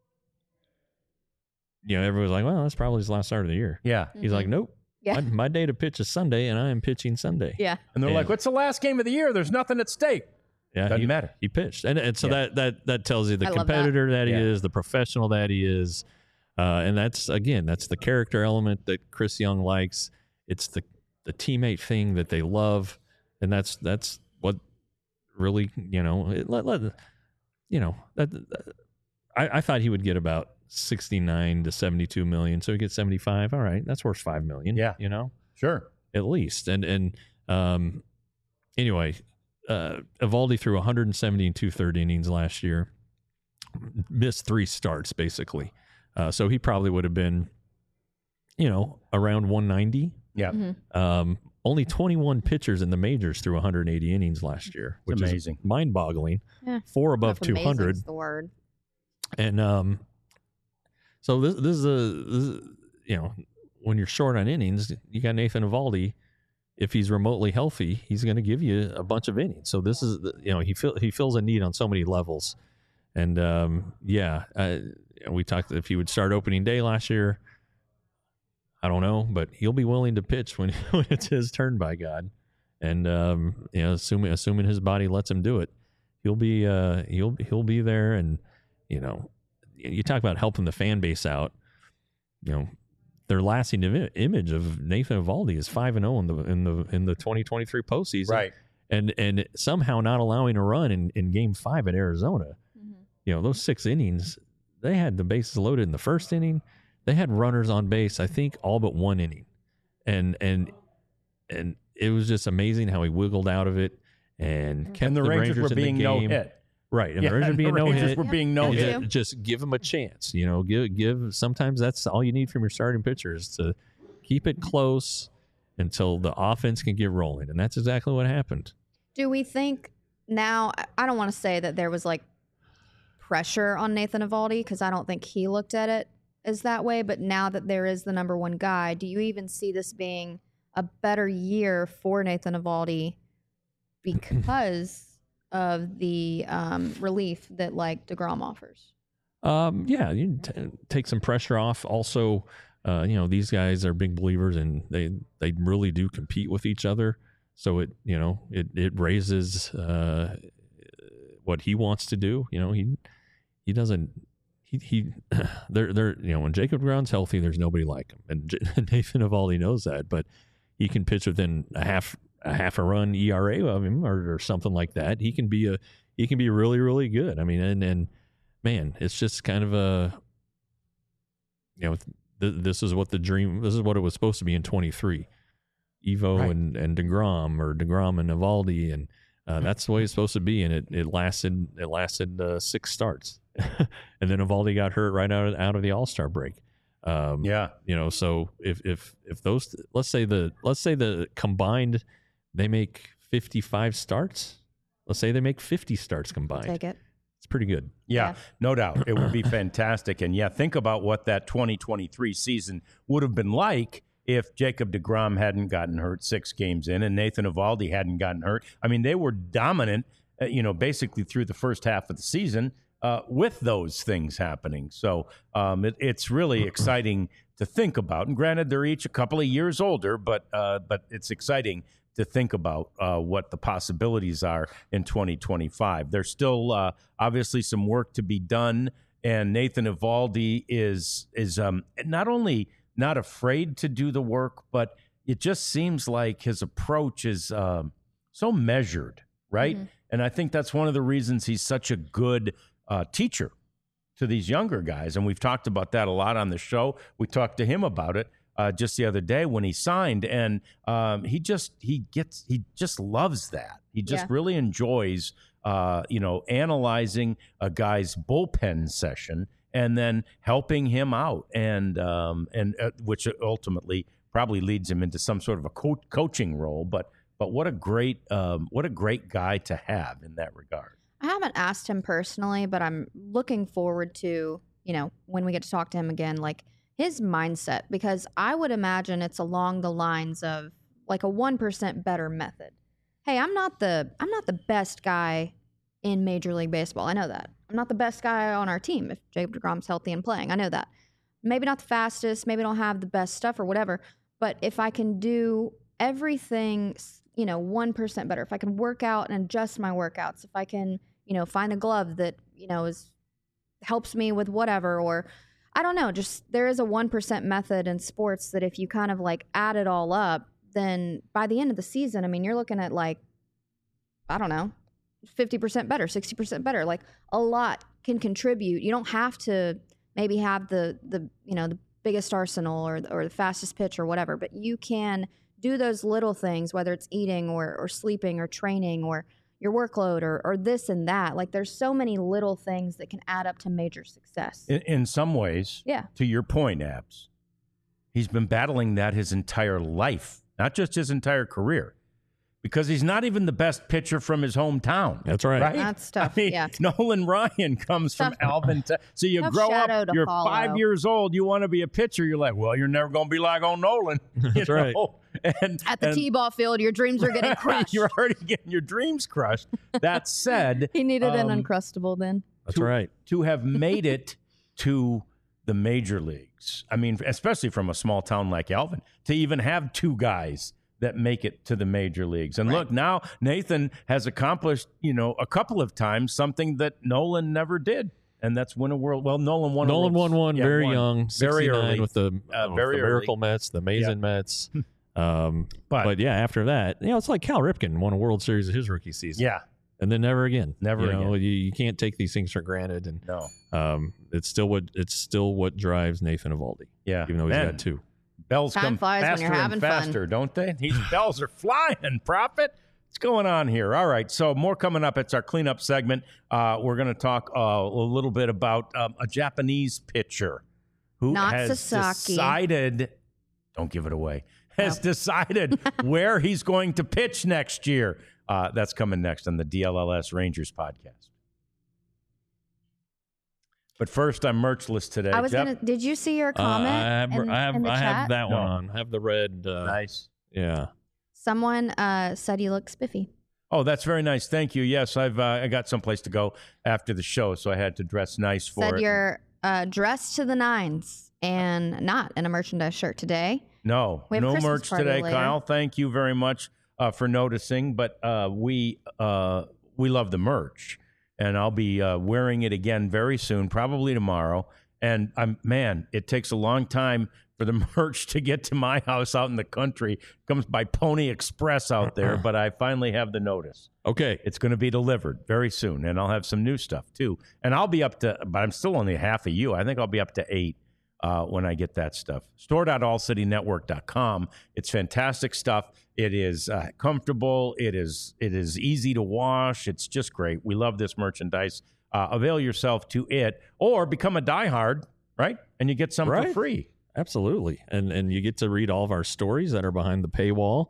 you know, everyone was like, "Well, that's probably his last start of the year." Yeah. He's like, "Nope, Mm-hmm. Yeah. my, my day to pitch is Sunday, and I am pitching Sunday." Yeah. And they're Yeah. like, what's the last game of the year? There's nothing at stake. Yeah, Doesn't he, matter. He pitched, and and so Yeah. that that that tells you the I love that. competitor that, he Yeah. is, the professional that he is, uh, and that's again, that's the character element that Chris Young likes. It's the the teammate thing that they love, and that's that's what really, you know, it, let, let, you know that, that- I, I thought he would get about sixty-nine to seventy-two million, so he gets seventy-five. All right, that's worth five million. Yeah. you know. Sure. At least. And and um, anyway, uh, Eovaldi threw one hundred seventy and two-third innings last year, missed three starts basically. Uh, so he probably would have been, you know, around one ninety. Yeah. Mhm. Um, only twenty-one pitchers in the majors threw one hundred eighty innings last year, which amazing. is mind-boggling. Yeah. Four above If two amazing hundred. is the word. And um, so this this is a this is, you know, when you're short on innings, you got Nathan Eovaldi. If he's remotely healthy, he's going to give you a bunch of innings. So this is the- you know he fill, he fills a need on so many levels. And um, yeah, uh, we talked if he would start opening day last year. I don't know, but he'll be willing to pitch when when it's his turn, by God. And um, you know, assuming assuming his body lets him do it, he'll be uh, he'll he'll be there. And you know, you talk about helping the fan base out. You know, their lasting Im- image of Nathan Eovaldi is five and zero in the in the in the twenty twenty-three postseason, Right. And and somehow not allowing a run in, in Game Five at Arizona. Mhm. You know, those six innings, they had the bases loaded in the first inning. They had runners on base, I think, all but one inning, and and and it was just amazing how he wiggled out of it and kept And the, Rangers, were in being the no game. hit. Right, and Yeah, the Rangers and being the no Rangers hit. were being no Yeah, hit. too. Just, just give them a chance. You know, give give. Sometimes that's all you need from your starting pitchers to keep it close until the offense can get rolling, and that's exactly what happened. Do we think now? I- I don't want to say that there was like pressure on Nathan Eovaldi because I don't think he looked at it as that way. But now that there is the number one guy, do you even see this being a better year for Nathan Eovaldi because of the um, relief that like DeGrom offers? Um, yeah, you t- take some pressure off. Also, uh, you know, these guys are big believers and they, they really do compete with each other. So it, you know, it, it raises uh, what he wants to do. You know, he he doesn't he he they're they're you know, when Jacob DeGrom's healthy, there's nobody like him, and J- Nathan Eovaldi knows that. But he can pitch within a half a half a run E R A of him or, or something like that. He can be a he can be really really good. I mean, and and man, it's just kind of a you know th- this is what the dream this is what it was supposed to be in twenty-three. Evo Right. and, and DeGrom or DeGrom and Eovaldi, and uh, that's the way it's supposed to be. And it, it lasted it lasted uh, six starts, and then Eovaldi got hurt right out of, out of the All-Star break. Um, Yeah. you know, so if if if those let's say the let's say the combined they make fifty-five starts. Let's say they make fifty starts combined. Take it. It's pretty good. Yeah, Yeah. no doubt. It would be fantastic. And yeah, think about what that twenty twenty-three season would have been like if Jacob DeGrom hadn't gotten hurt six games in and Nathan Eovaldi hadn't gotten hurt. I mean, they were dominant, uh, you know, basically through the first half of the season uh, with those things happening. So um, it, it's really exciting to think about. And granted, they're each a couple of years older, but uh, but it's exciting to think about uh, what the possibilities are in twenty twenty-five. There's still uh, obviously some work to be done, and Nathan Eovaldi is is um, not only not afraid to do the work, but it just seems like his approach is um, so measured, right? Mm-hmm. And I think that's one of the reasons he's such a good uh, teacher to these younger guys. And we've talked about that a lot on the show. We talked to him about it uh, just the other day when he signed, and um, he just he gets he just loves that. He just Yeah. really enjoys uh, you know analyzing a guy's bullpen session and then helping him out, and um, and uh, which ultimately probably leads him into some sort of a co- coaching role. But but what a great um, what a great guy to have in that regard. I haven't asked him personally, but I'm looking forward to, you know, when we get to talk to him again, like his mindset, because I would imagine it's along the lines of like a one percent better method. Hey, I'm not the I'm not the best guy in Major League Baseball. I know that. I'm not the best guy on our team if Jacob DeGrom's healthy and playing. I know that. Maybe not the fastest, maybe don't have the best stuff or whatever, but if I can do everything, you know, one percent better, if I can work out and adjust my workouts, if I can, you know, find a glove that, you know, is helps me with whatever, or I don't know, just there is a one percent method in sports that if you kind of like add it all up, then by the end of the season, I mean, you're looking at like, I don't know, fifty percent better, sixty percent better. Like a lot can contribute. You don't have to maybe have the, the you know, the biggest arsenal or, or the fastest pitch or whatever, but you can do those little things, whether it's eating or, or sleeping or training or your workload or, or this and that. Like there's so many little things that can add up to major success. In, in some ways, Yeah. to your point, Abs, he's been battling that his entire life, not just his entire career, because he's not even the best pitcher from his hometown. That's right. Right? That's tough, I mean, yeah. Nolan Ryan comes from Tough. Alvin. Te- so you Tough grow shadow up, to you're follow. five years old, you want to be a pitcher. You're like, well, you're never going to be like on Nolan. You That's right. know? And, At the and- T-ball field, your dreams are getting crushed. You're already getting your dreams crushed. That said, He needed an um, Uncrustable then. That's to, right. to have made it to the major leagues. I mean, especially from a small town like Alvin, to even have two guys that make it to the major leagues. And Right. look, now Nathan has accomplished, you know, a couple of times something that Nolan never did. And that's win a world. Well, Nolan won. a Nolan world- won one yeah, very won young, very sixty-nine early. with the, Uh, with very the early. Miracle Mets, the Amazing Mets. Um, But- but, yeah, after that, you know, it's like Cal Ripken won a World Series of his rookie season. Yeah, and then never again. Never you know, again. You, you can't take these things for granted, and no, um, it's still what it's still what drives Nathan Eovaldi, yeah. even though he's Man, got two. bells Time come flies when faster you're having and fun. faster, don't they? These bells are flying, Prophet. What's going on here? All right, so more coming up. It's our cleanup segment. Uh, we're going to talk uh, a little bit about um, a Japanese pitcher who Not has Sasaki. decided, don't give it away, has No. decided where he's going to pitch next year. Uh, that's coming next on the D L L S Rangers podcast. But first, I'm merchless today. I was Jeff? gonna. Did you see your comment? Uh, I have, in, I have, in the I chat? have that one No. on. I have the red. Uh, Nice. Yeah. Someone uh, said you look spiffy. Oh, that's very nice. Thank you. Yes, I've uh, I got someplace to go after the show, so I had to dress nice for Said it. you're uh, dressed to the nines and not in a merchandise shirt today. No, We have a no Christmas merch party today, later. Kyle. Thank you very much uh, for noticing. But uh, we uh, we love the merch, and I'll be uh, wearing it again very soon, probably tomorrow. And I'm man, it takes a long time for the merch to get to my house out in the country. It comes by Pony Express out there, but I finally have the notice. Okay. It's going to be delivered very soon, and I'll have some new stuff too. And I'll be up to, but I'm still only half of you. I think I'll be up to eight uh, when I get that stuff. store dot all city network dot com. It's fantastic stuff. It is uh, comfortable. It is it is easy to wash. It's just great. We love this merchandise. Uh, avail yourself to it, or become a diehard, right? And you get some Right. for free. Absolutely, and and you get to read all of our stories that are behind the paywall.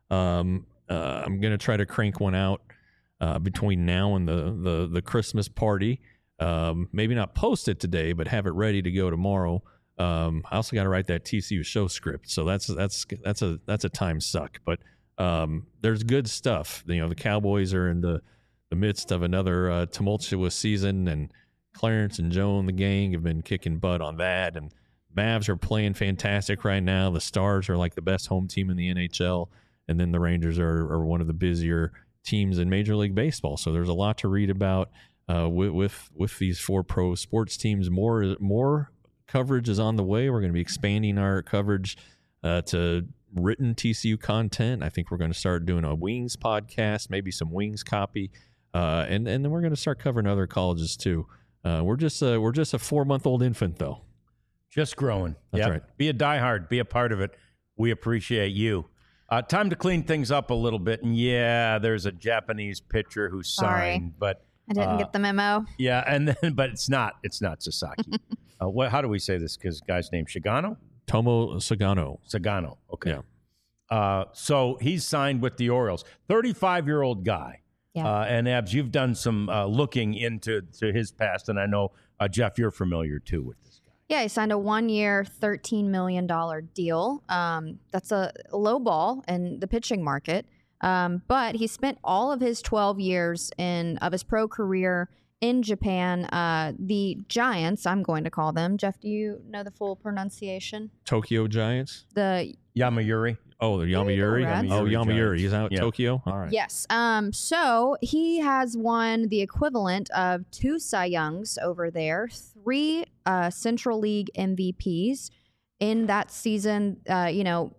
Um, uh, I'm gonna try to crank one out uh, between now and the the the Christmas party. Um, maybe not post it today, but have it ready to go tomorrow. Um, I also got to write that T C U show script, so that's that's that's a that's a time suck. But um, there's good stuff. You know, the Cowboys are in the the midst of another uh, tumultuous season, and Clarence and Joe and the gang have been kicking butt on that, and Mavs are playing fantastic right now. The Stars are like the best home team in the N H L, and then the Rangers are, are one of the busier teams in Major League Baseball. So there's a lot to read about uh, with, with with these four pro sports teams. More more coverage is on the way. We're going to be expanding our coverage uh, to written T C U content. I think we're going to start doing a Wings podcast, maybe some Wings copy, uh, and and then we're going to start covering other colleges too. Uh, we're just a, we're just a four month old infant though. Just growing. That's Yep. right. Be a diehard. Be a part of it. We appreciate you. Uh, time to clean things up a little bit. And yeah, there's a Japanese pitcher who Sorry. signed, but I didn't uh, get the memo. yeah, and then but it's not. It's not Sasaki. uh, what? How do we say this? Because guy's name Shigano. Tomo Sagano. Sagano. Okay. Yeah. Uh, so he's signed with the Orioles. thirty-five-year-old guy. Yeah. Uh, and Abs, you've done some uh, looking into to his past, and I know uh, Jeff, you're familiar too with this guy. Yeah, he signed a one-year, thirteen million dollars deal. Um, that's a low ball in the pitching market. Um, but he spent all of his twelve years in of his pro career in Japan. Uh, the Giants, I'm going to call them. Jeff, do you know the full pronunciation? Tokyo Giants. The Yamayuri. Oh, the There you go, Yamayuri. Rats. Oh, Yamayuri Yamayuri. Giants. He's out Yeah. Tokyo. All right. Yes. Um, so he has won the equivalent of two Cy Youngs over there, three uh, Central League M V Ps in that season. Uh, you know,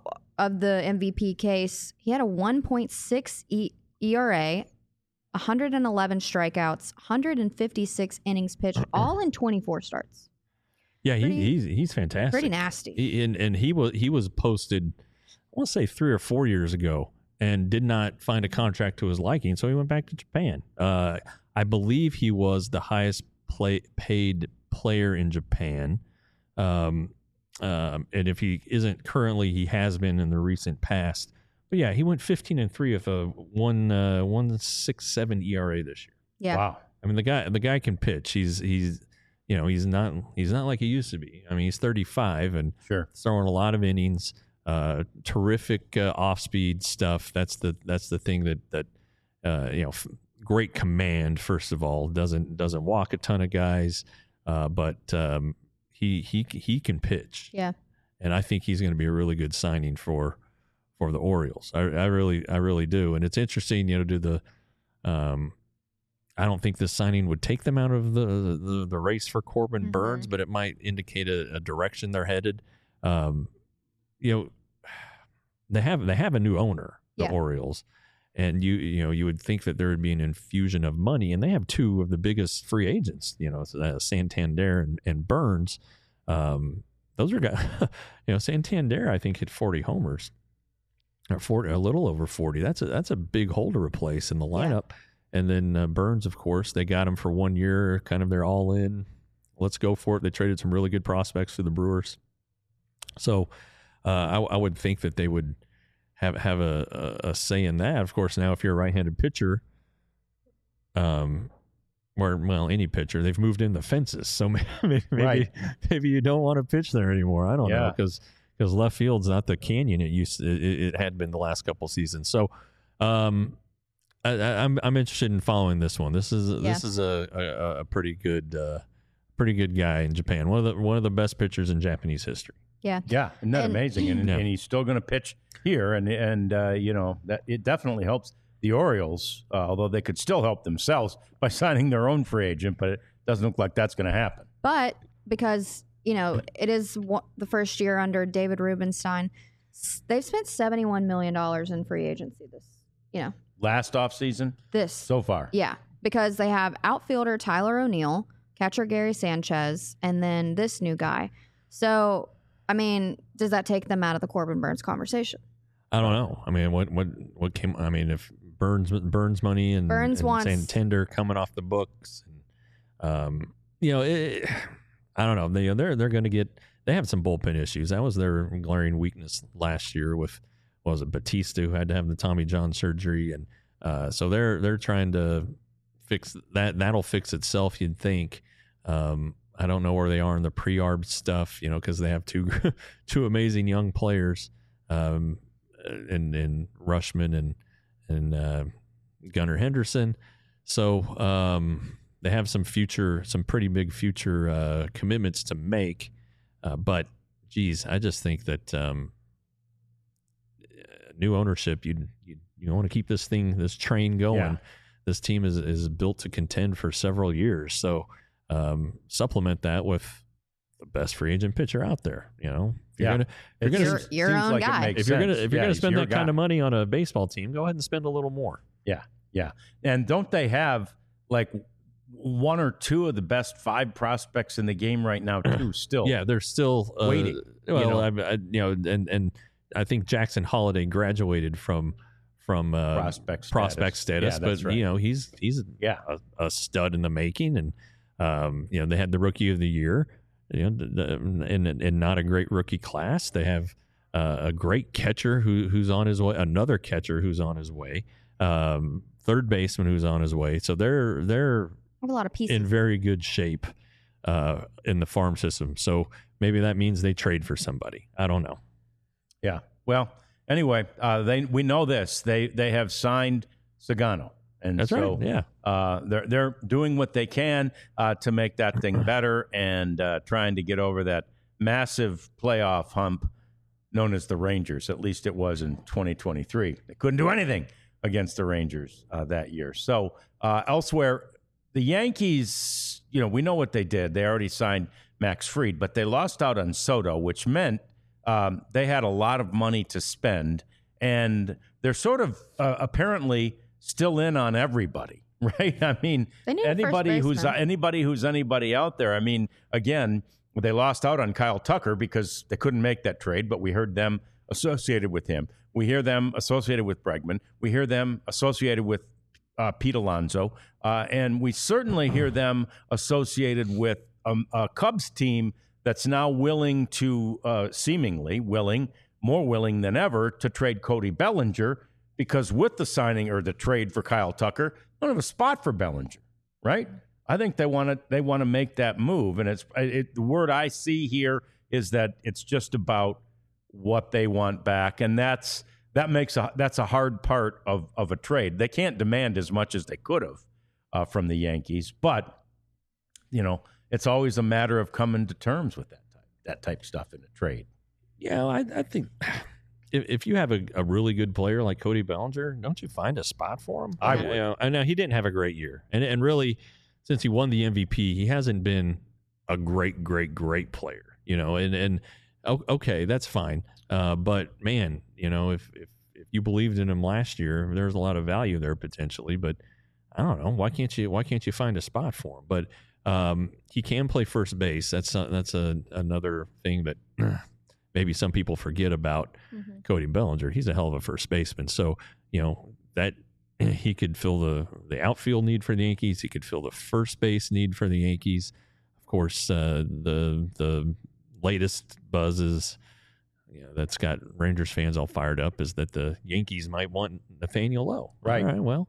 of the M V P case, he had a one point six e- E R A, one hundred eleven strikeouts, one hundred fifty-six innings pitched, all in twenty-four starts. Yeah, he, Pretty- he's he's fantastic. Pretty nasty. He, and and he was he was posted, I want to say three or four years ago, and did not find a contract to his liking, so he went back to Japan. Uh, I believe he was the highest play, paid player in Japan, um, um, and if he isn't currently, he has been in the recent past. But yeah, he went fifteen and three with a one uh, one six seven E R A this year. Yeah. Wow. I mean, the guy the guy can pitch. He's he's you know he's not he's not like he used to be. I mean, he's thirty-five and Sure. throwing a lot of innings. Uh, terrific uh, off-speed stuff. That's the that's the thing that that uh, you know. F- great command. First of all, doesn't doesn't walk a ton of guys, uh, but um, he he he can pitch. Yeah. And I think he's going to be a really good signing for for the Orioles. I, I really I really do. And it's interesting, you know, do the. Um, I don't think this signing would take them out of the the, the race for Corbin Mhm. Burns, but it might indicate a, a direction they're headed. Um, you know, they have they have a new owner, the Yeah. Orioles, and you you know you would think that there would be an infusion of money, and they have two of the biggest free agents, you know, uh, Santander and, and Burns. Um, those are guys, you know, Santander I think hit forty homers, or forty, a little over forty. That's a that's a big hole to replace in the lineup. And then uh, Burns, of course, they got him for one year, kind of they're all in. Let's go for it. They traded some really good prospects to the Brewers. So uh, I, I would think that they would have have a, a, a say in that. Of course, now if you're a right-handed pitcher, um, or well, any pitcher. They've moved in the fences, so maybe maybe, Right. maybe you don't want to pitch there anymore. I don't know, Yeah. because because left field's not the canyon it used to, it, it had been the last couple seasons. So, um, I, I, I'm I'm interested in following this one. This is Yeah. this is a, a, a pretty good uh, pretty good guy in Japan. One of the one of the best pitchers in Japanese history. Yeah. Yeah, isn't that And- amazing? And, Yeah. and he's still going to pitch here, and and uh, you know that it definitely helps the Orioles, uh, although they could still help themselves by signing their own free agent, but it doesn't look like that's going to happen. But because, you know, it is one, the first year under David Rubenstein, s- they've spent seventy-one million dollars in free agency this, you know, Last offseason this. so far. Yeah, because they have outfielder Tyler O'Neill, catcher Gary Sanchez, and then this new guy. So, I mean, does that take them out of the Corbin Burns conversation? I don't know. I mean, what what what came? I mean, if Burns Burns money and Burns and wants- Santander coming off the books, and, um, you know, it, I don't know. They they're they're going to get. They have some bullpen issues. That was their glaring weakness last year with what was it Batista, who had to have the Tommy John surgery, and uh, so they're they're trying to fix that. That'll fix itself, you'd think. Um, I don't know where they are in the pre-arb stuff, you know, because they have two two amazing young players. Um, and and Rushman and and uh, Gunnar Henderson, so um, they have some future, some pretty big future uh, commitments to make. Uh, but geez, I just think that um, new ownership, you you you want to keep this thing, this train going. Yeah. This team is is built to contend for several years, so um, supplement that with the best free agent pitcher out there. You know, if you're Yeah. gonna if you're It gonna Your- your seems own like it guy. makes if you're gonna sense. if you're Yeah, gonna he's spend your that kind guy. of money on a baseball team, go ahead and spend a little more. Yeah, yeah. And don't they have like one or two of the best five prospects in the game right now too? Still, Yeah, they're still uh, Waiting, Well, you know. I, I, you know, and and I think Jackson Holiday graduated from from uh, prospect status. prospect status, Yeah, but that's right. you know he's he's Yeah. a, a stud in the making, and um, you know they had the rookie of the year, you know, the- the- and and not a great rookie class. They have uh, a great catcher who who's on his way, another catcher who's on his way, um, third baseman who's on his way. So they're they're I have a lot of pieces. in very good shape uh, in the farm system. So maybe that means they trade for somebody. I don't know. Yeah. Well, anyway, uh, they we know this. They they have signed Sagano, and That's so right. Yeah. uh, they're they're doing what they can uh, to make that thing better and uh, trying to get over that massive playoff hump known as the Rangers. At least it was in twenty twenty-three. They couldn't do anything against the Rangers uh, that year. So uh, elsewhere, the Yankees, you know, we know what they did. They already signed Max Fried, but they lost out on Soto, which meant um, they had a lot of money to spend, and they're sort of uh, apparently still in on everybody, right? I mean, They need a first anybody who's baseman. anybody who's anybody out there. I mean, again, they lost out on Kyle Tucker because they couldn't make that trade, but we heard them associated with him. We hear them associated with Bregman. We hear them associated with uh, Pete Alonso, uh, and we certainly hear them associated with um, a Cubs team that's now willing to, uh, seemingly willing, more willing than ever, to trade Cody Bellinger, because with the signing or the trade for Kyle Tucker, they don't have a spot for Bellinger, right? I think they want to they want to make that move, and it's it, the word I see here is that it's just about what they want back, and that's that makes a that's a hard part of of a trade. They can't demand as much as they could have uh, from the Yankees, but you know it's always a matter of coming to terms with that type, that type of stuff in a trade. Yeah, I, I think if, if you have a, a really good player like Cody Bellinger, don't you find a spot for him? I You would. know, I know he didn't have a great year, and and really, since he won the M V P, he hasn't been a great, great, great player. You know, and and o- okay, that's fine. Uh, but man, you know, if if if you believed in him last year, there's a lot of value there potentially. But I don't know, why can't you why can't you find a spot for him? But um, he can play first base. That's a, that's a another thing that maybe some people forget about Mm-hmm. Cody Bellinger. He's a hell of a first baseman. So, you know, that he could fill the, the outfield need for the Yankees. He could fill the first base need for the Yankees. Of course, uh, the the latest buzz is, you know, that's got Rangers fans all fired up is that the Yankees might want Nathaniel Lowe. Right. All right, well,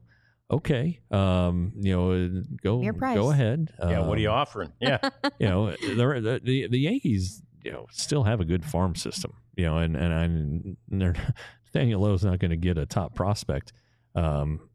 okay, um, you know, go Your price. go ahead. Yeah, what are you Um, offering? Yeah. you know, the, the the Yankees, you know, still have a good farm system. You know, and and, and they're, Daniel Lowe's not going to get a top prospect. Um,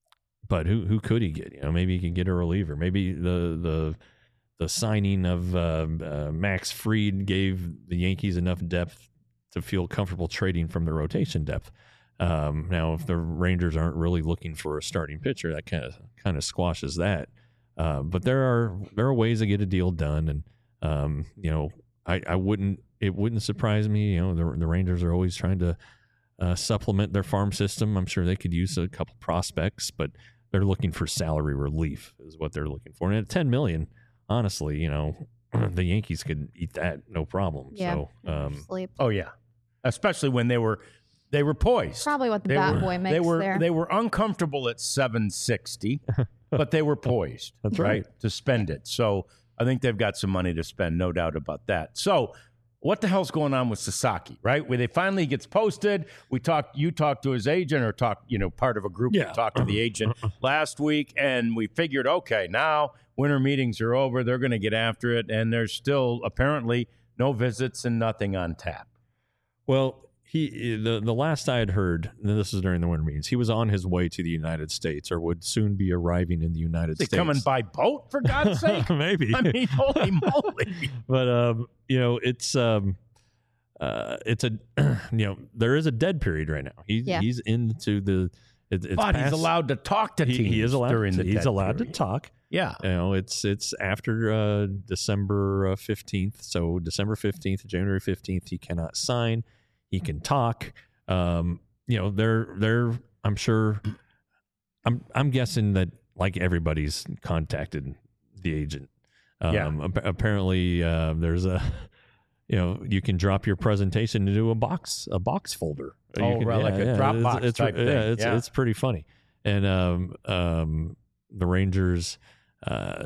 but who who could he get? You know, maybe he can get a reliever. Maybe the the the signing of uh, uh, Max Fried gave the Yankees enough depth to feel comfortable trading from the rotation depth. Um, now, if the Rangers aren't really looking for a starting pitcher, that kind of kind of squashes that. Uh, but there are there are ways to get a deal done, and um, you know, I, I wouldn't it wouldn't surprise me. You know, the the Rangers are always trying to uh, supplement their farm system. I'm sure they could use a couple prospects, but they're looking for salary relief is what they're looking for. And at ten million, honestly, you know, the Yankees could eat that no problem. Yeah. So, um, Sleep. Oh yeah, especially when they were they were poised. Probably what the They bat were, boy makes they were there. they were uncomfortable at seven sixty, but they were poised. That's right. to spend it. So I think they've got some money to spend, no doubt about that. So what the hell's going on with Sasaki, right? Where they finally gets posted. We talked, you talked to his agent, or talked, you know, part of a group Yeah. that talked to the agent last week, and we figured, okay, now winter meetings are over. They're going to get after it, and there's still apparently no visits and nothing on tap. Well, he the the last I had heard, and this is during the winter meetings, he was on his way to the United States, or would soon be arriving in the United They States. coming by boat, for God's sake? Maybe. I mean, holy moly. But um, you know, it's um, uh, it's a you know, there is a dead period right now. He's Yeah. he's into the. It, it's But he's past- allowed to talk to he, teams he is allowed. during to, the he's dead allowed period. to talk. Yeah. You know, it's it's after uh, December fifteenth. So December fifteenth, January fifteenth, he cannot sign. He can talk. Um, you know, they're they're. I'm sure. I'm I'm guessing that like everybody's contacted the agent. Um, Yeah. ap- apparently, uh, there's a. You know, you can drop your presentation into a box, a box folder. You Oh, can- right, like a Dropbox it's, it's, type yeah, thing. It's, Yeah. it's pretty funny. And um, um, the Rangers, uh,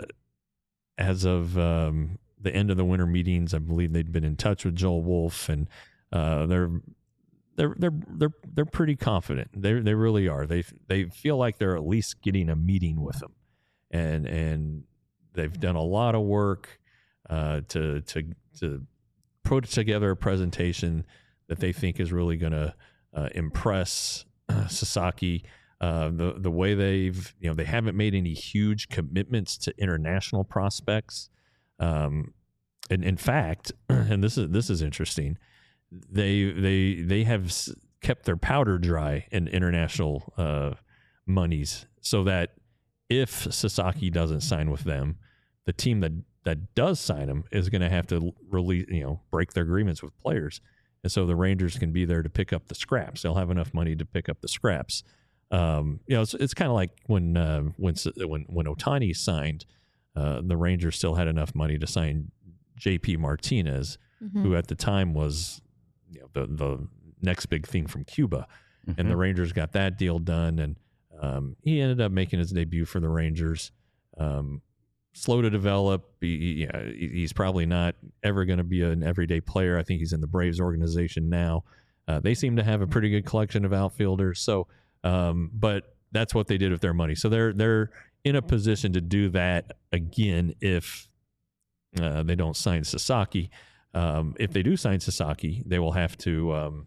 as of um, the end of the winter meetings, I believe they'd been in touch with Joel Wolf, and uh, they're they're they're they're they're pretty confident. They they really are. They they feel like they're at least getting a meeting with him, and and they've done a lot of work uh, to to to put together a presentation that they think is really going to uh, impress uh, Sasaki. Uh, the the way they've you know they haven't made any huge commitments to international prospects. Um, and in fact, and this is this is interesting, they they they have s- kept their powder dry in international uh, monies, so that if Sasaki doesn't sign with them, the team that that does sign him is going to have to release, you know, break their agreements with players. And so the Rangers can be there to pick up the scraps. They'll have enough money to pick up the scraps. Um, you know, it's, it's kind of like when, uh, when, when, when Ohtani signed, uh, the Rangers still had enough money to sign J P Martinez, Mhm. who at the time was, you know, the, the next big thing from Cuba. And Mm-hmm. the Rangers got that deal done. And, um, he ended up making his debut for the Rangers. Um, slow to develop. He, he- yeah, he- he's probably not ever going to be an everyday player. I think he's in the Braves organization now. Uh, they seem to have a pretty good collection of outfielders. So, um, but that's what they did with their money. So they're they're in a position to do that again if uh, they don't sign Sasaki. Um, if they do sign Sasaki, they will have to um,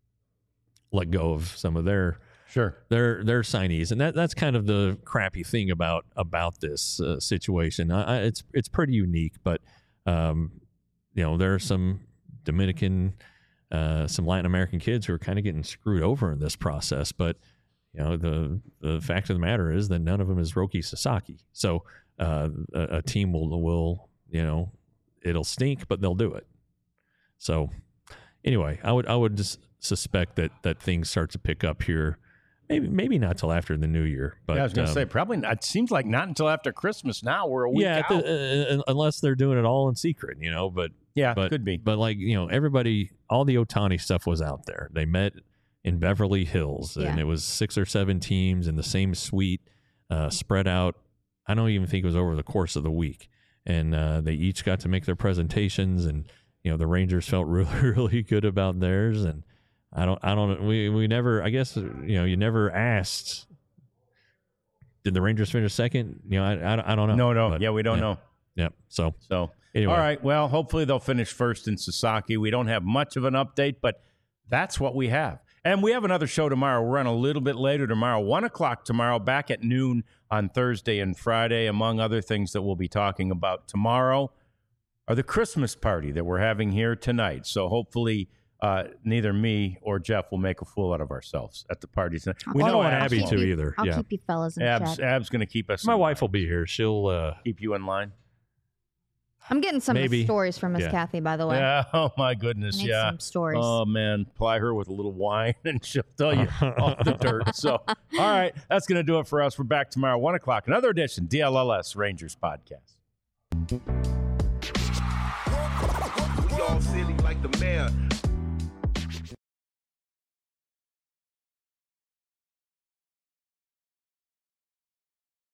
let go of some of their Sure. their their signees, and that that's kind of the crappy thing about about this uh, situation. I, I, it's it's pretty unique, but um, you know there are some Dominican, uh, some Latin American kids who are kind of getting screwed over in this process. But you know the the fact of the matter is that none of them is Roki Sasaki. So uh, a, a team will will you know it'll stink, but they'll do it. So anyway, I would I would just suspect that that things start to pick up here. Maybe maybe not till after the new year, but yeah, I was going to um, say, probably not. It seems like not until after Christmas now. We're a week yeah, out. the- uh, unless they're doing it all in secret, you know. But yeah, but could be. But like you know, everybody, all the Ohtani stuff was out there. They met in Beverly Hills, and Yeah. it was six or seven teams in the same suite, uh, spread out. I don't even think it was over the course of the week, and uh, they each got to make their presentations, and you know, the Rangers felt really really good about theirs, and. I don't, I don't, we, we never, I guess, you know, you never asked did the Rangers finish second? You know, I, I, I don't know. No, no. But, yeah, we don't yeah. know. Yep. So, So, anyway. all right. Well, hopefully they'll finish first in Sasaki. We don't have much of an update, but that's what we have. And we have another show tomorrow. We're on a little bit later tomorrow, one o'clock tomorrow, back at noon on Thursday and Friday. Among other things that we'll be talking about tomorrow are the Christmas party that we're having here tonight. So hopefully uh, neither me or Jeff will make a fool out of ourselves at the party tonight. I'll We I keep- don't want Abs Abby won't. to keep- either. I'll yeah. keep you fellas in Abs, check. Ab's going to keep us. My in wife line. will be here. She'll. Uh, Keep you in line. I'm getting some Maybe. stories from Miss Yeah. Kathy, by the way. Yeah. Oh my I goodness. need Yeah. some stories. Oh man, ply her with a little wine and she'll tell you all the dirt. So, all right, that's going to do it for us. We're back tomorrow, one o'clock. Another edition, D L L S Rangers podcast. We all silly like the mayor.